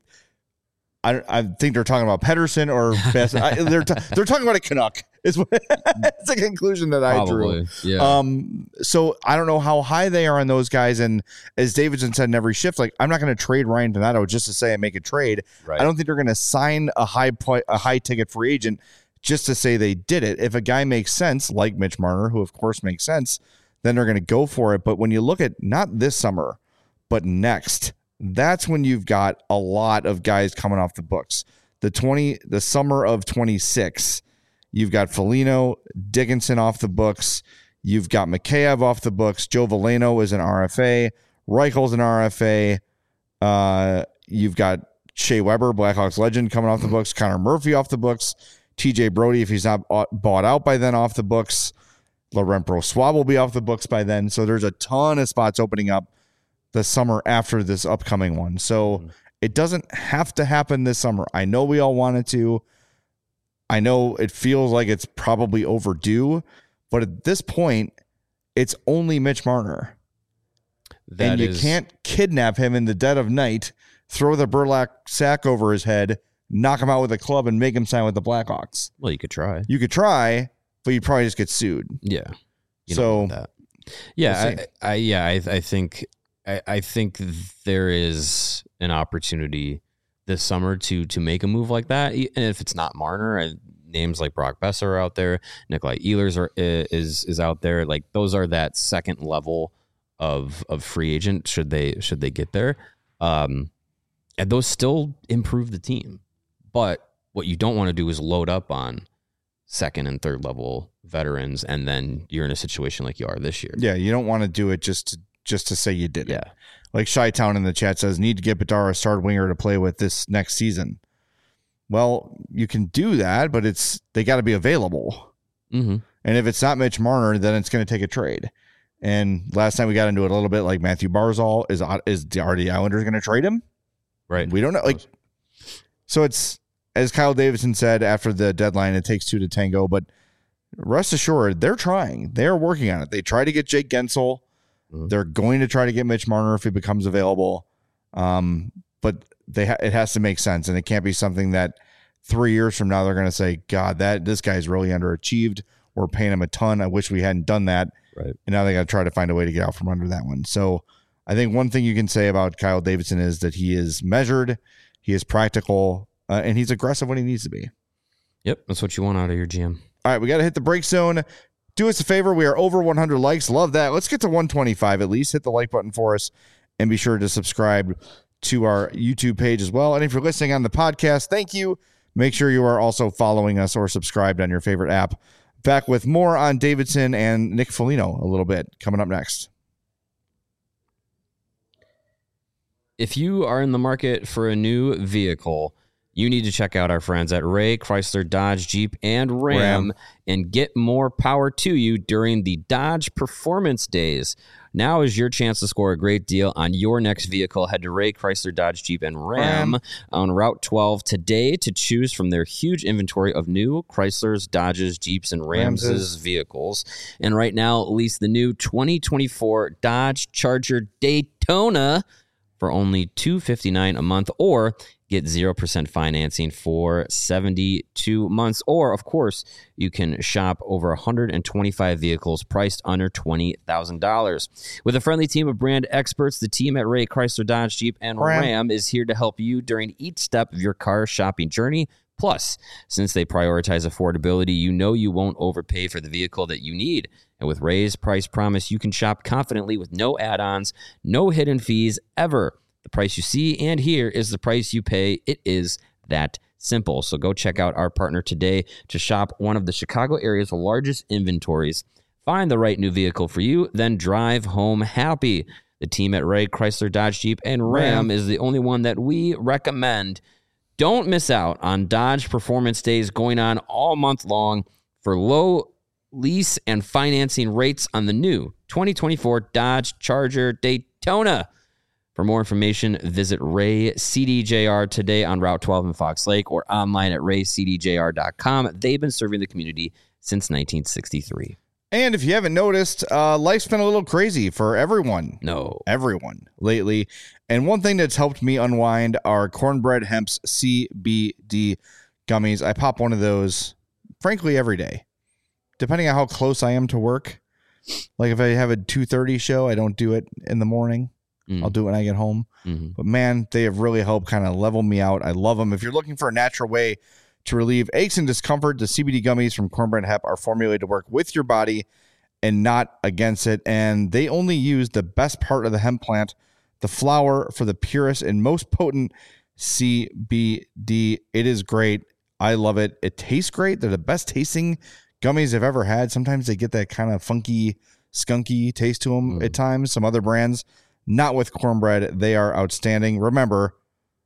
I I think they're talking about Pedersen or Best. I, they're t- they're talking about a Canuck. Is what it's a conclusion that I Probably. drew. Yeah. Um. So I don't know how high they are on those guys. And as Davidson said in every shift, like I'm not going to trade Ryan Donato just to say I make a trade. Right. I don't think they're going to sign a high po- a high ticket free agent just to say they did it. If a guy makes sense, like Mitch Marner, who of course makes sense, then they're going to go for it. But when you look at not this summer, but next, that's when you've got a lot of guys coming off the books. The twenty, the summer of twenty-six, you've got Foligno, Dickinson off the books. You've got Mikheyev off the books. Joe Veleno is an R F A. Reichel's an R F A. Uh, you've got Shea Weber, Blackhawks legend, coming off the books. Connor Murphy off the books. T J Brody, if he's not bought out by then, off the books. Laurent Brossoit will be off the books by then. So there's a ton of spots opening up the summer after this upcoming one. So mm-hmm. It doesn't have to happen this summer. I know we all want it to. I know it feels like it's probably overdue, but at this point, it's only Mitch Marner. That and you is... can't kidnap him in the dead of night, throw the burlap sack over his head, knock him out with a club, and make him sign with the Blackhawks. Well, you could try. You could try, but you'd probably just get sued. Yeah. You so that. Yeah, we'll I, I yeah, I, I think I, I think there is an opportunity this summer to to make a move like that. And if it's not Marner, and names like Brock Boeser are out there, Nikolai Ehlers are is is out there. Like those are that second level of of free agent. Should they should they get there, um, and those still improve the team. But what you don't want to do is load up on second and third level veterans, and then you're in a situation like you are this year. Yeah, you don't want to do it just to, just to say you did yeah. it. Like Chi-Town in the chat says, need to get Bedard a star winger to play with this next season. Well, you can do that, but it's they got to be available. Mm-hmm. And if it's not Mitch Marner, then it's going to take a trade. And last time we got into it a little bit, like Matthew Barzal, is is are the Islanders going to trade him? Right. We don't know. Like, so it's, as Kyle Davidson said after the deadline, it takes two to tango, but rest assured, they're trying. They're working on it. They try to get Jake Gensel. Mm-hmm. They're going to try to get Mitch Marner if he becomes available. Um, but they ha- it has to make sense, and it can't be something that three years from now they're going to say, God, that this guy's really underachieved. We're paying him a ton. I wish we hadn't done that. Right. And now they got to try to find a way to get out from under that one. So I think one thing you can say about Kyle Davidson is that he is measured, he is practical, uh, and he's aggressive when he needs to be. Yep, that's what you want out of your G M. All right, we got to hit the break zone. Do us a favor. We are over one hundred likes. Love that. Let's get to one twenty-five at least. Hit the like button for us, and be sure to subscribe to our YouTube page as well. And if you're listening on the podcast, thank you. Make sure you are also following us or subscribed on your favorite app. Back with more on Davidson and Nick Foligno a little bit coming up next. If you are in the market for a new vehicle, you need to check out our friends at Ray Chrysler Dodge Jeep and Ram, Ram and get more power to you during the Dodge Performance Days. Now is your chance to score a great deal on your next vehicle. Head to Ray Chrysler Dodge Jeep and Ram, Ram on Route twelve today to choose from their huge inventory of new Chryslers, Dodges, Jeeps, and Rams Ramses. vehicles. And right now, lease the new twenty twenty-four Dodge Charger Daytona for only two hundred fifty-nine dollars a month, or get zero percent financing for seventy-two months. Or, of course, you can shop over one hundred twenty-five vehicles priced under twenty thousand dollars. With a friendly team of brand experts, the team at Ray Chrysler Dodge Jeep and Ram, Ram is here to help you during each step of your car shopping journey. Plus, since they prioritize affordability, you know you won't overpay for the vehicle that you need. And with Ray's price promise, you can shop confidently with no add-ons, no hidden fees ever. The price you see and hear is the price you pay. It is that simple. So go check out our partner today to shop one of the Chicago area's largest inventories. Find the right new vehicle for you, then drive home happy. The team at Ray Chrysler Dodge Jeep and Ram, Ram. is the only one that we recommend. Don't miss out on Dodge Performance Days going on all month long for low lease and financing rates on the new twenty twenty-four Dodge Charger Daytona. For more information, visit Ray C D J R today on Route twelve in Fox Lake or online at ray c d j r dot com. They've been serving the community since nineteen sixty-three. And if you haven't noticed, uh, life's been a little crazy for everyone. No. Everyone lately. And one thing that's helped me unwind are Cornbread Hemp's C B D gummies. I pop one of those, frankly, every day, depending on how close I am to work. Like if I have a two thirty show, I don't do it in the morning. Mm. I'll do it when I get home. Mm-hmm. But man, they have really helped kind of level me out. I love them. If you're looking for a natural way to relieve aches and discomfort, the C B D gummies from Cornbread Hemp are formulated to work with your body and not against it. And they only use the best part of the hemp plant, the flower, for the purest and most potent C B D. It is great. I love it. It tastes great. They're the best tasting gummies I've ever had. Sometimes they get that kind of funky, skunky taste to them mm. at times. Some other brands, not with Cornbread. They are outstanding. Remember,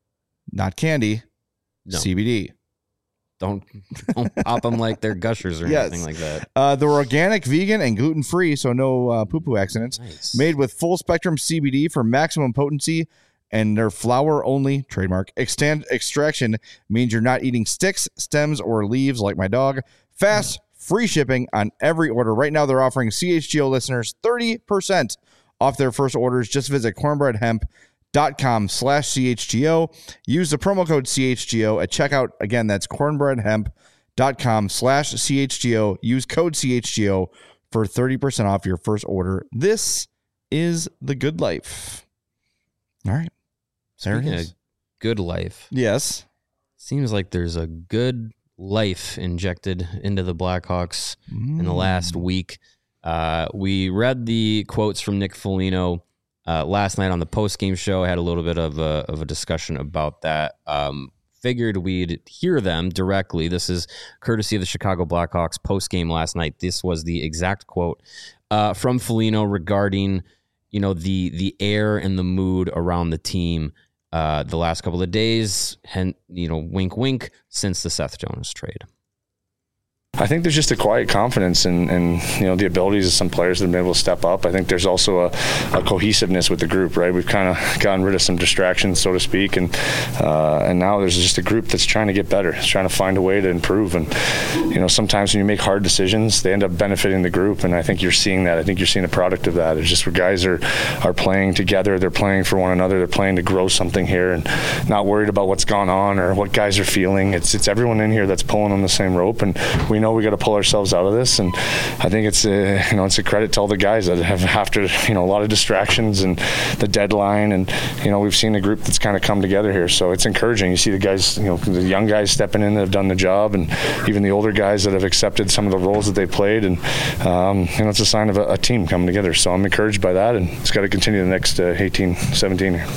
not candy, no. C B D. Don't, don't pop them like they're gushers or yes. anything like that. Uh, they're organic, vegan, and gluten-free, so no uh, poo-poo accidents. Nice. Made with full-spectrum C B D for maximum potency, and their flower-only, trademark, extend extraction means you're not eating sticks, stems, or leaves like my dog. Fast, free shipping on every order. Right now, they're offering C H G O listeners thirty percent off their first orders. Just visit cornbreadhemp dot com slash C H G O. Use the promo code C H G O at checkout. Again, that's cornbreadhemp dot com slash C H G O. Use code C H G O for thirty percent off your first order. This is the good life. All right. There Speaking it is. Of good life. Yes. Seems like there's a good life injected into the Blackhawks mm. in the last week. Uh, we read the quotes from Nick Foligno Uh, last night on the post-game show. I had a little bit of a, of a discussion about that. Um, figured we'd hear them directly. This is courtesy of the Chicago Blackhawks post-game last night. This was the exact quote uh, from Foligno regarding, you know, the the air and the mood around the team uh, the last couple of days. And, you know, wink, wink, since the Seth Jonas trade. I think there's just a quiet confidence and, and you know the abilities of some players that have been able to step up. I think there's also a, a cohesiveness with the group, right? We've kind of gotten rid of some distractions, so to speak, and uh, and now there's just a group that's trying to get better, it's trying to find a way to improve. And you know sometimes when you make hard decisions, they end up benefiting the group, and I think you're seeing that. I think you're seeing a product of that. It's just where guys are are playing together, they're playing for one another, they're playing to grow something here, and not worried about what's gone on or what guys are feeling. It's it's everyone in here that's pulling on the same rope, and we know we got to pull ourselves out of this. And I think it's a, you know it's a credit to all the guys that have after you know a lot of distractions and the deadline, and you know we've seen a group that's kind of come together here. So it's encouraging. You see the guys, you know, the young guys stepping in that have done the job, and even the older guys that have accepted some of the roles that they played. And um, you know it's a sign of a, a team coming together. So I'm encouraged by that, and it's got to continue the next uh, eighteen, seventeen here.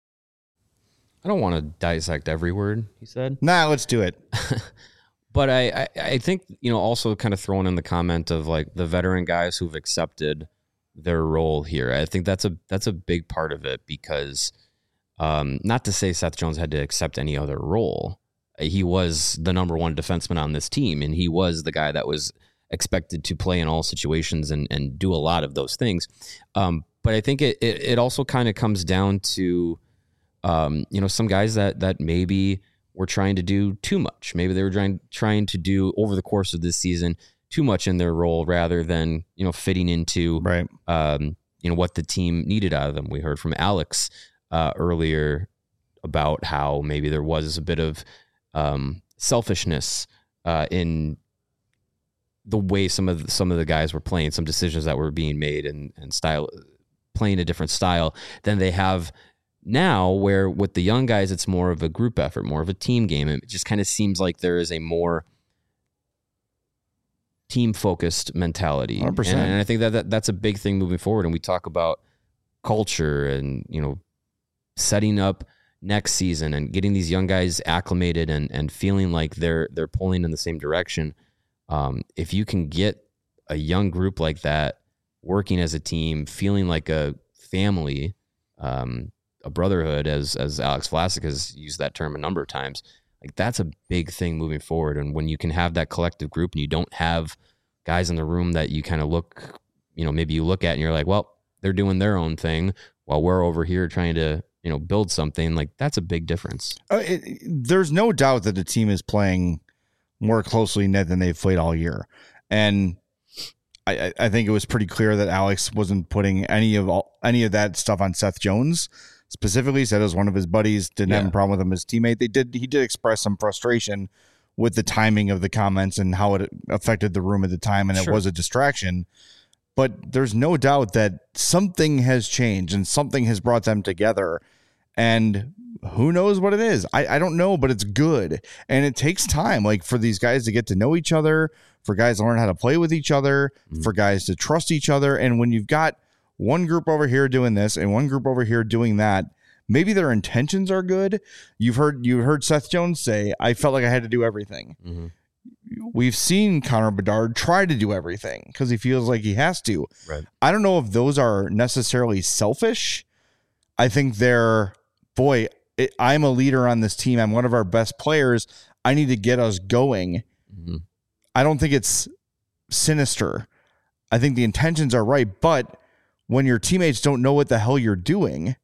I don't want to dissect every word he said. Nah, let's do it. But I, I, I think, you know, also kind of throwing in the comment of like the veteran guys who've accepted their role here. I think that's a that's a big part of it because um, not to say Seth Jones had to accept any other role, he was the number one defenseman on this team, and he was the guy that was expected to play in all situations and, and do a lot of those things. Um, but I think it, it, it also kind of comes down to, um, you know, some guys that, that maybe were trying to do too much. Maybe they were trying, trying to do over the course of this season too much in their role rather than, you know, fitting into, right. um, you know, what the team needed out of them. We heard from Alex uh, earlier about how maybe there was a bit of um, selfishness uh, in the way some of the, some of the guys were playing, some decisions that were being made and, and style, playing a different style than they have now, where with the young guys, it's more of a group effort, more of a team game. It just kind of seems like there is a more team-focused mentality. one hundred percent. And, and I think that, that that's a big thing moving forward. And we talk about culture and, you know, setting up next season and getting these young guys acclimated and, and feeling like they're they're pulling in the same direction. Um, if you can get a young group like that working as a team, feeling like a family, um, a brotherhood, as as Alex Vlasic has used that term a number of times, like that's a big thing moving forward. And when you can have that collective group and you don't have guys in the room that you kind of look, you know, maybe you look at and you're like, well, they're doing their own thing while we're over here trying to, you know, build something, like that's a big difference. Uh, it, there's no doubt that the team is playing more closely knit than they've played all year. And I, I think it was pretty clear that Alex wasn't putting any of all, any of that stuff on Seth Jones. Specifically said it was one of his buddies, didn't yeah. have a problem with him, his teammate. They did, he did express some frustration with the timing of the comments and how it affected the room at the time. And sure. It was a distraction, but there's no doubt that something has changed and something has brought them together. And who knows what it is? I, I don't know, but it's good. And it takes time, like for these guys to get to know each other, for guys to learn how to play with each other, mm-hmm. for guys to trust each other. And when you've got one group over here doing this and one group over here doing that, maybe their intentions are good. You've heard, you heard Seth Jones say, I felt like I had to do everything. Mm-hmm. We've seen Connor Bedard try to do everything because he feels like he has to. Right. I don't know if those are necessarily selfish. I think they're, boy, it, I'm a leader on this team. I'm one of our best players. I need to get us going. Mm-hmm. I don't think it's sinister. I think the intentions are right, but when your teammates don't know what the hell you're doing,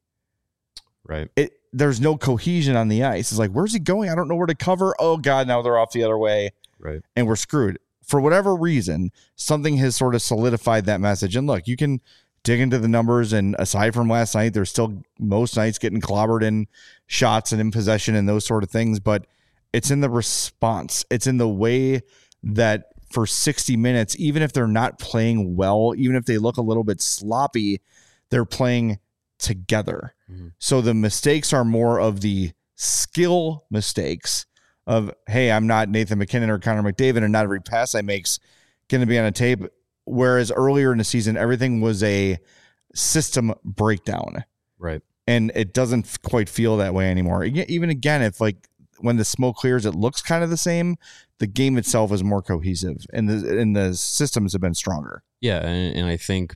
right? It there's no cohesion on the ice. It's like, where's he going? I don't know where to cover. Oh God, now they're off the other way, right? And we're screwed. For whatever reason, something has sort of solidified that message. And look, you can dig into the numbers, and aside from last night, there's still most nights getting clobbered in shots and in possession and those sort of things. But it's in the response. It's in the way that for sixty minutes, even if they're not playing well, even if they look a little bit sloppy, they're playing together. Mm-hmm. So the mistakes are more of the skill mistakes of, hey, I'm not Nathan MacKinnon or Connor McDavid, and not every pass I make's going to be on a tape. Whereas earlier in the season, everything was a system breakdown. Right. And it doesn't quite feel that way anymore. Even again, if like when the smoke clears, it looks kind of the same. The game itself is more cohesive, and the and the systems have been stronger. Yeah, and, and I think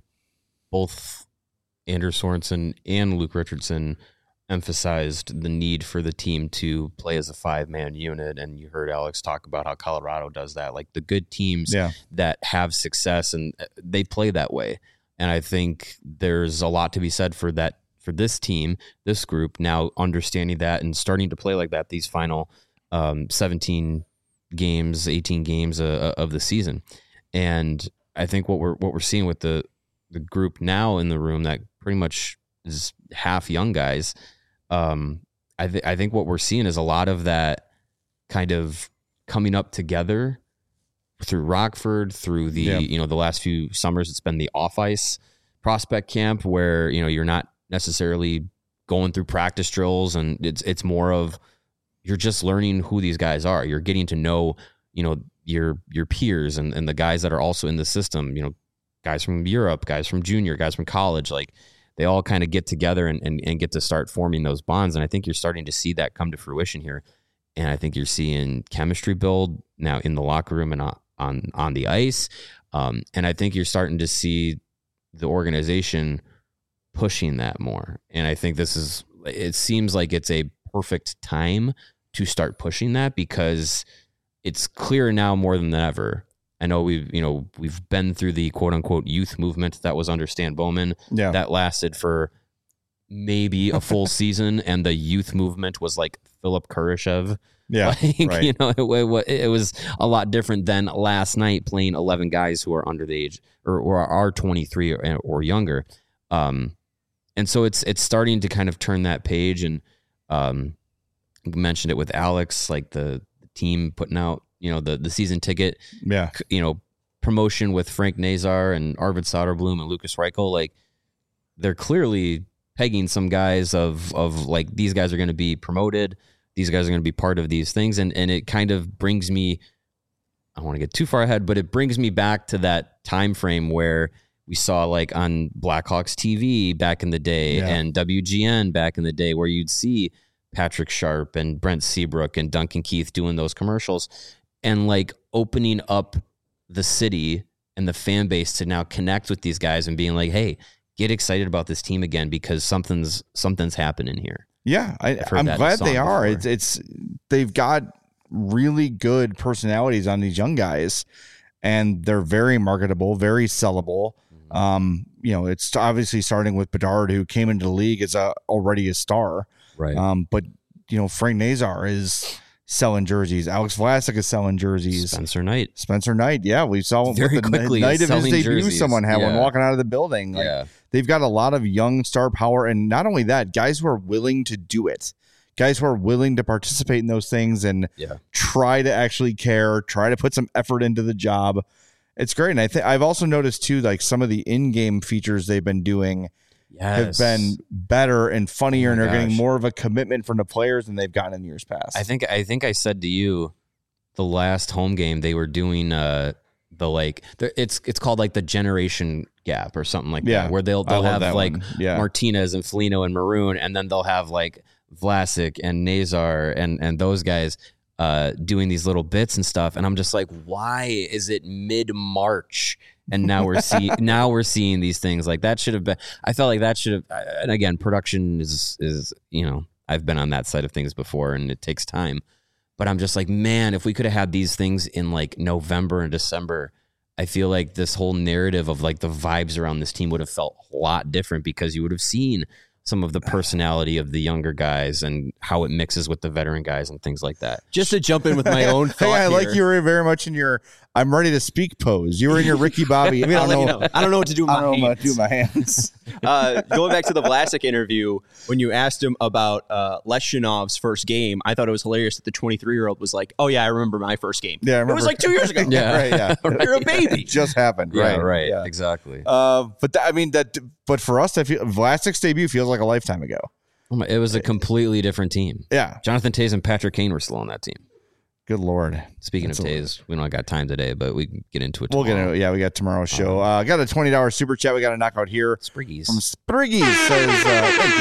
both Andrew Sorensen and Luke Richardson emphasized the need for the team to play as a five-man unit, and you heard Alex talk about how Colorado does that. Like the good teams yeah. that have success, and they play that way. And I think there's a lot to be said for that, for this team, this group, now understanding that and starting to play like that these final um, seventeen games, eighteen games uh, of the season. And I think what we're what we're seeing with the the group now in the room that pretty much is half young guys. Um, I think I think what we're seeing is a lot of that kind of coming up together through Rockford, through the yeah. you know the last few summers. It's been the off ice prospect camp where you know you're not necessarily going through practice drills, and it's it's more of you're just learning who these guys are. You're getting to know, you know, your your peers and, and the guys that are also in the system, you know, guys from Europe, guys from junior, guys from college. Like they all kind of get together and, and, and get to start forming those bonds. And I think you're starting to see that come to fruition here. And I think you're seeing chemistry build now in the locker room and on on, on the ice. Um, and I think you're starting to see the organization pushing that more. And I think this is, it seems like it's a perfect time to start pushing that, because it's clear now more than ever. I know we've, you know, we've been through the quote unquote youth movement that was under Stan Bowman. Yeah. That lasted for maybe a full season. And the youth movement was like Philip Kurashev. Yeah. Like, right. you know, it, it was a lot different than last night playing eleven guys who are under the age or, or are twenty-three or, or younger. Um, and so it's, it's starting to kind of turn that page. And, um, you mentioned it with Alex, like the, the team putting out, you know, the, the season ticket, yeah, you know, promotion with Frank Nazar and Arvid Soderblom and Lucas Reichel. Like, they're clearly pegging some guys of, of like, these guys are going to be promoted. These guys are going to be part of these things. And, and it kind of brings me, I don't want to get too far ahead, but it brings me back to that time frame where we saw like on Blackhawks T V back in the day Yeah. and W G N back in the day, where you'd see Patrick Sharp and Brent Seabrook and Duncan Keith doing those commercials and like opening up the city and the fan base to now connect with these guys and being like, hey, get excited about this team again, because something's something's happening here. Yeah, I, I've heard I'm that glad song they are. before. It's it's they've got really good personalities on these young guys, and they're very marketable, very sellable. Mm-hmm. Um, you know, it's obviously starting with Bedard, who came into the league as a already a star. Right. Um, but you know, Frank Nazar is selling jerseys. Alex Vlasic is selling jerseys. Spencer Knight. Spencer Knight, yeah, we saw him Very with the quickly night of his selling debut. jerseys. Someone had one Yeah. walking out of the building. Like, Yeah. they've got a lot of young star power, and not only that, guys who are willing to do it, guys who are willing to participate in those things and Yeah. try to actually care, try to put some effort into the job. It's great, and I think I've also noticed too, like some of the in-game features they've been doing have Yes. been better and funnier, Oh and my are getting gosh. more of a commitment from the players than they've gotten in years past. I think I think I said to you the last home game they were doing uh the like the, it's it's called like the generation gap or something like Yeah. that, where they'll I they'll love have that like one. Yeah. Martinez and Foligno and Maroon, and then they'll have like Vlasic and Nazar and and those guys uh doing these little bits and stuff, and I'm just like, why is it mid-March and now we're seeing now we're seeing these things? Like, that should have been, I felt like that should have, and again, production is is you know, I've been on that side of things before and it takes time, but I'm just like, man, if we could have had these things in like November and December, I feel like this whole narrative of like the vibes around this team would have felt a lot different, because you would have seen some of the personality of the younger guys and how it mixes with the veteran guys and things like that. Just to jump in with my own Hey, thought I like here. you were very much in your I'm ready to speak pose. You were in your Ricky Bobby. I mean, I I'll don't let know. you know. I don't know what to do with I my don't know what to hands. do with my hands. uh, going back to the Vlasic interview, when you asked him about uh, Leshinov's first game, I thought it was hilarious that the twenty-three-year-old was like, "Oh yeah, I remember my first game. Yeah, I It remember. was like two years ago. Yeah. right. Yeah, You're a baby." It just happened. Yeah, right. right. Yeah. Exactly. Uh, but that, I mean that. But for us, I feel Vlasic's debut feels like a lifetime ago. Oh my, it was a completely different team. Yeah. Jonathan Toews and Patrick Kane were still on that team. Good Lord. Speaking That's of a- Toews, we don't got time today, but we can get into it We'll tomorrow. get into it. Yeah, we got tomorrow's show. Uh, got a twenty dollars super chat. We got to knock out here Spriggies. from Spriggy. Says, uh, thank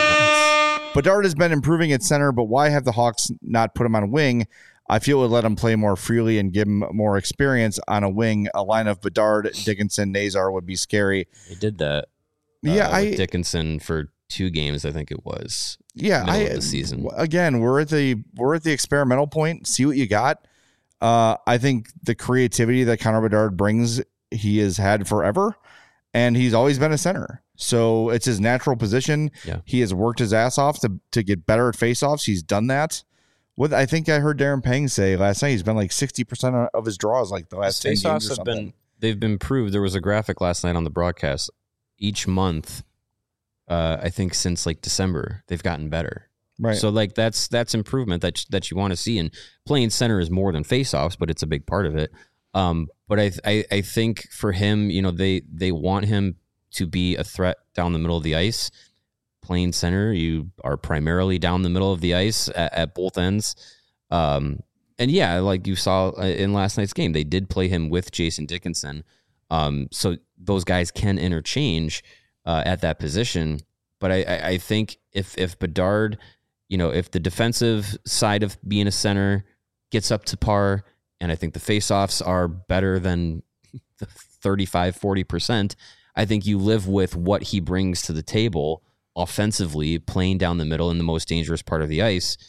you. Bedard has been improving at center, but why have the Hawks not put him on a wing? I feel it would let him play more freely and give him more experience on a wing. A line of Bedard, Dickinson, Nazar would be scary. They did that. uh, Yeah, with I Dickinson for two games, I think it was. yeah, middle I of the season. w- again, we're at the we're at the experimental point. See what you got. Uh, I think the creativity that Connor Bedard brings, he has had forever, and he's always been a center. So it's his natural position. Yeah. He has worked his ass off to to get better at faceoffs. He's done that. What I think I heard Darren Pang say last night, he's been like sixty percent of his draws like the last ten games or Faceoffs have something. been they've been proved. There was a graphic last night on the broadcast. Each month, uh, I think since like December, they've gotten better. right. So like that's that's improvement that that you want to see. And playing center is more than faceoffs, but it's a big part of it. Um, but I, I I think for him, you know, they they want him to be a threat down the middle of the ice. Playing center, you are primarily down the middle of the ice at, at both ends. Um, and yeah, like you saw in last night's game, they did play him with Jason Dickinson. Um, so those guys can interchange uh, at that position. But I, I, I think if if Bedard, you know, if the defensive side of being a center gets up to par, and I think the faceoffs are better than thirty-five, forty percent, I think you live with what he brings to the table offensively, playing down the middle in the most dangerous part of the ice.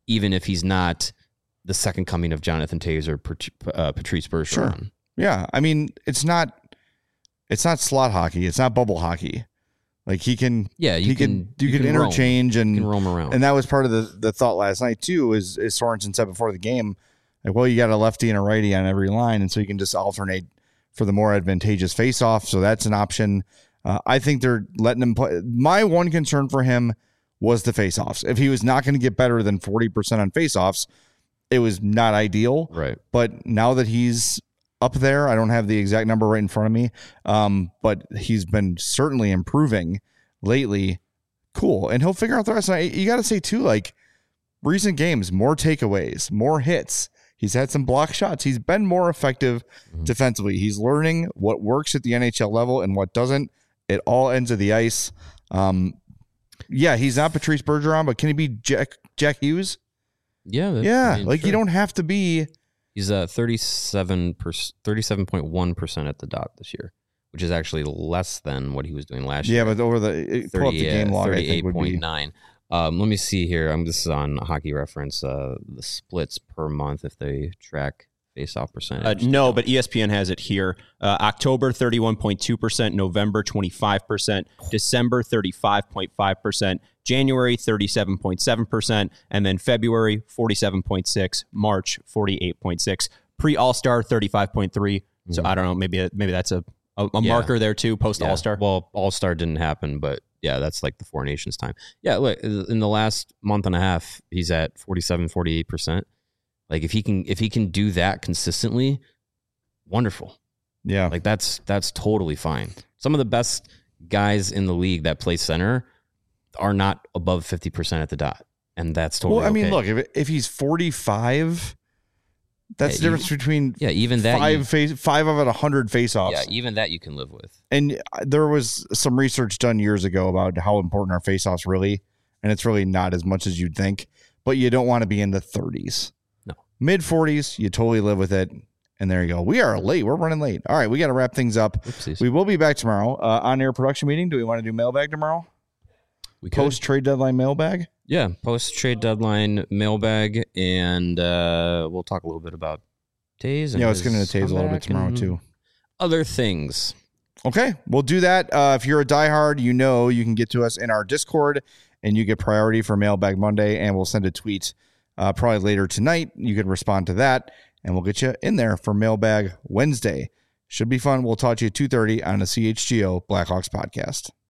even if he's not the second coming of Jonathan Toews or uh, Patrice Bergeron. Sure. Yeah. I mean, it's not it's not slot hockey. It's not bubble hockey. Like he can, yeah, you he can, can, you, you can, can interchange roam. and you can roam around. And that was part of the, the thought last night too, is, is Sorensen said before the game, like, well, you got a lefty and a righty on every line. And so you can just alternate for the more advantageous face-off. So that's an option. Uh, I think they're letting him play. My one concern for him was the face-offs. If he was not going to get better than forty percent on face-offs, it was not ideal. Right. But now that he's up there, I don't have the exact number right in front of me, um, but he's been certainly improving lately. Cool. And he'll figure out the rest. And I, you got to say, too, like, recent games, more takeaways, more hits. He's had some block shots. He's been more effective mm-hmm. defensively. He's learning what works at the N H L level and what doesn't. It all ends of the ice. Um, yeah, he's not Patrice Bergeron, but can he be Jack Jack Hughes? Yeah. Yeah, I mean, like sure. you don't have to be. He's uh, thirty-seven percent, thirty-seven point one percent at the dot this year, which is actually less than what he was doing last yeah, year. Yeah, but over the, pull up the game log, I think would be. thirty-eight point nine. Um, let me see here. I'm This is on Hockey Reference, uh, the splits per month if they track face-off percentage. Uh, no, but E S P N has it here. Uh, October, thirty-one point two percent. November, twenty-five percent. December, thirty-five point five percent. January, thirty-seven point seven percent. And then February, forty-seven point six. March, forty-eight point six. Pre-All-Star, thirty-five point three. Mm-hmm. So I don't know. Maybe maybe that's a, a, a yeah. marker there too, post-All-Star. Yeah. Well, All-Star didn't happen, but yeah, that's like the Four Nations time. Yeah, look, in the last month and a half, he's at forty-seven, forty-eight percent. Like if he can if he can do that consistently, wonderful. Yeah. Like that's that's totally fine. Some of the best guys in the league that play center are not above fifty percent at the dot. And that's totally Well, I mean, okay. look, if if he's forty-five, that's yeah, the difference even, between yeah, even that five you, face five of it, one hundred face-offs. Yeah, even that you can live with. And there was some research done years ago about how important are face-offs really, and it's really not as much as you'd think, but you don't want to be in the thirties. No. Mid forties, you totally live with it. And there you go. We are late. We're running late. All right, we got to wrap things up. Oopsies. We will be back tomorrow. Uh, on-air production meeting. Do we want to do mailbag tomorrow? We could. Post-trade deadline mailbag? Yeah, post-trade deadline mailbag, and uh, we'll talk a little bit about Toews. And yeah, I was going to Toews a little bit tomorrow, too. Other things. Okay, we'll do that. Uh, if you're a diehard, you know you can get to us in our Discord, and you get priority for Mailbag Monday, and we'll send a tweet uh, probably later tonight. You can respond to that, and we'll get you in there for Mailbag Wednesday. Should be fun. We'll talk to you at two thirty on the C H G O Blackhawks podcast.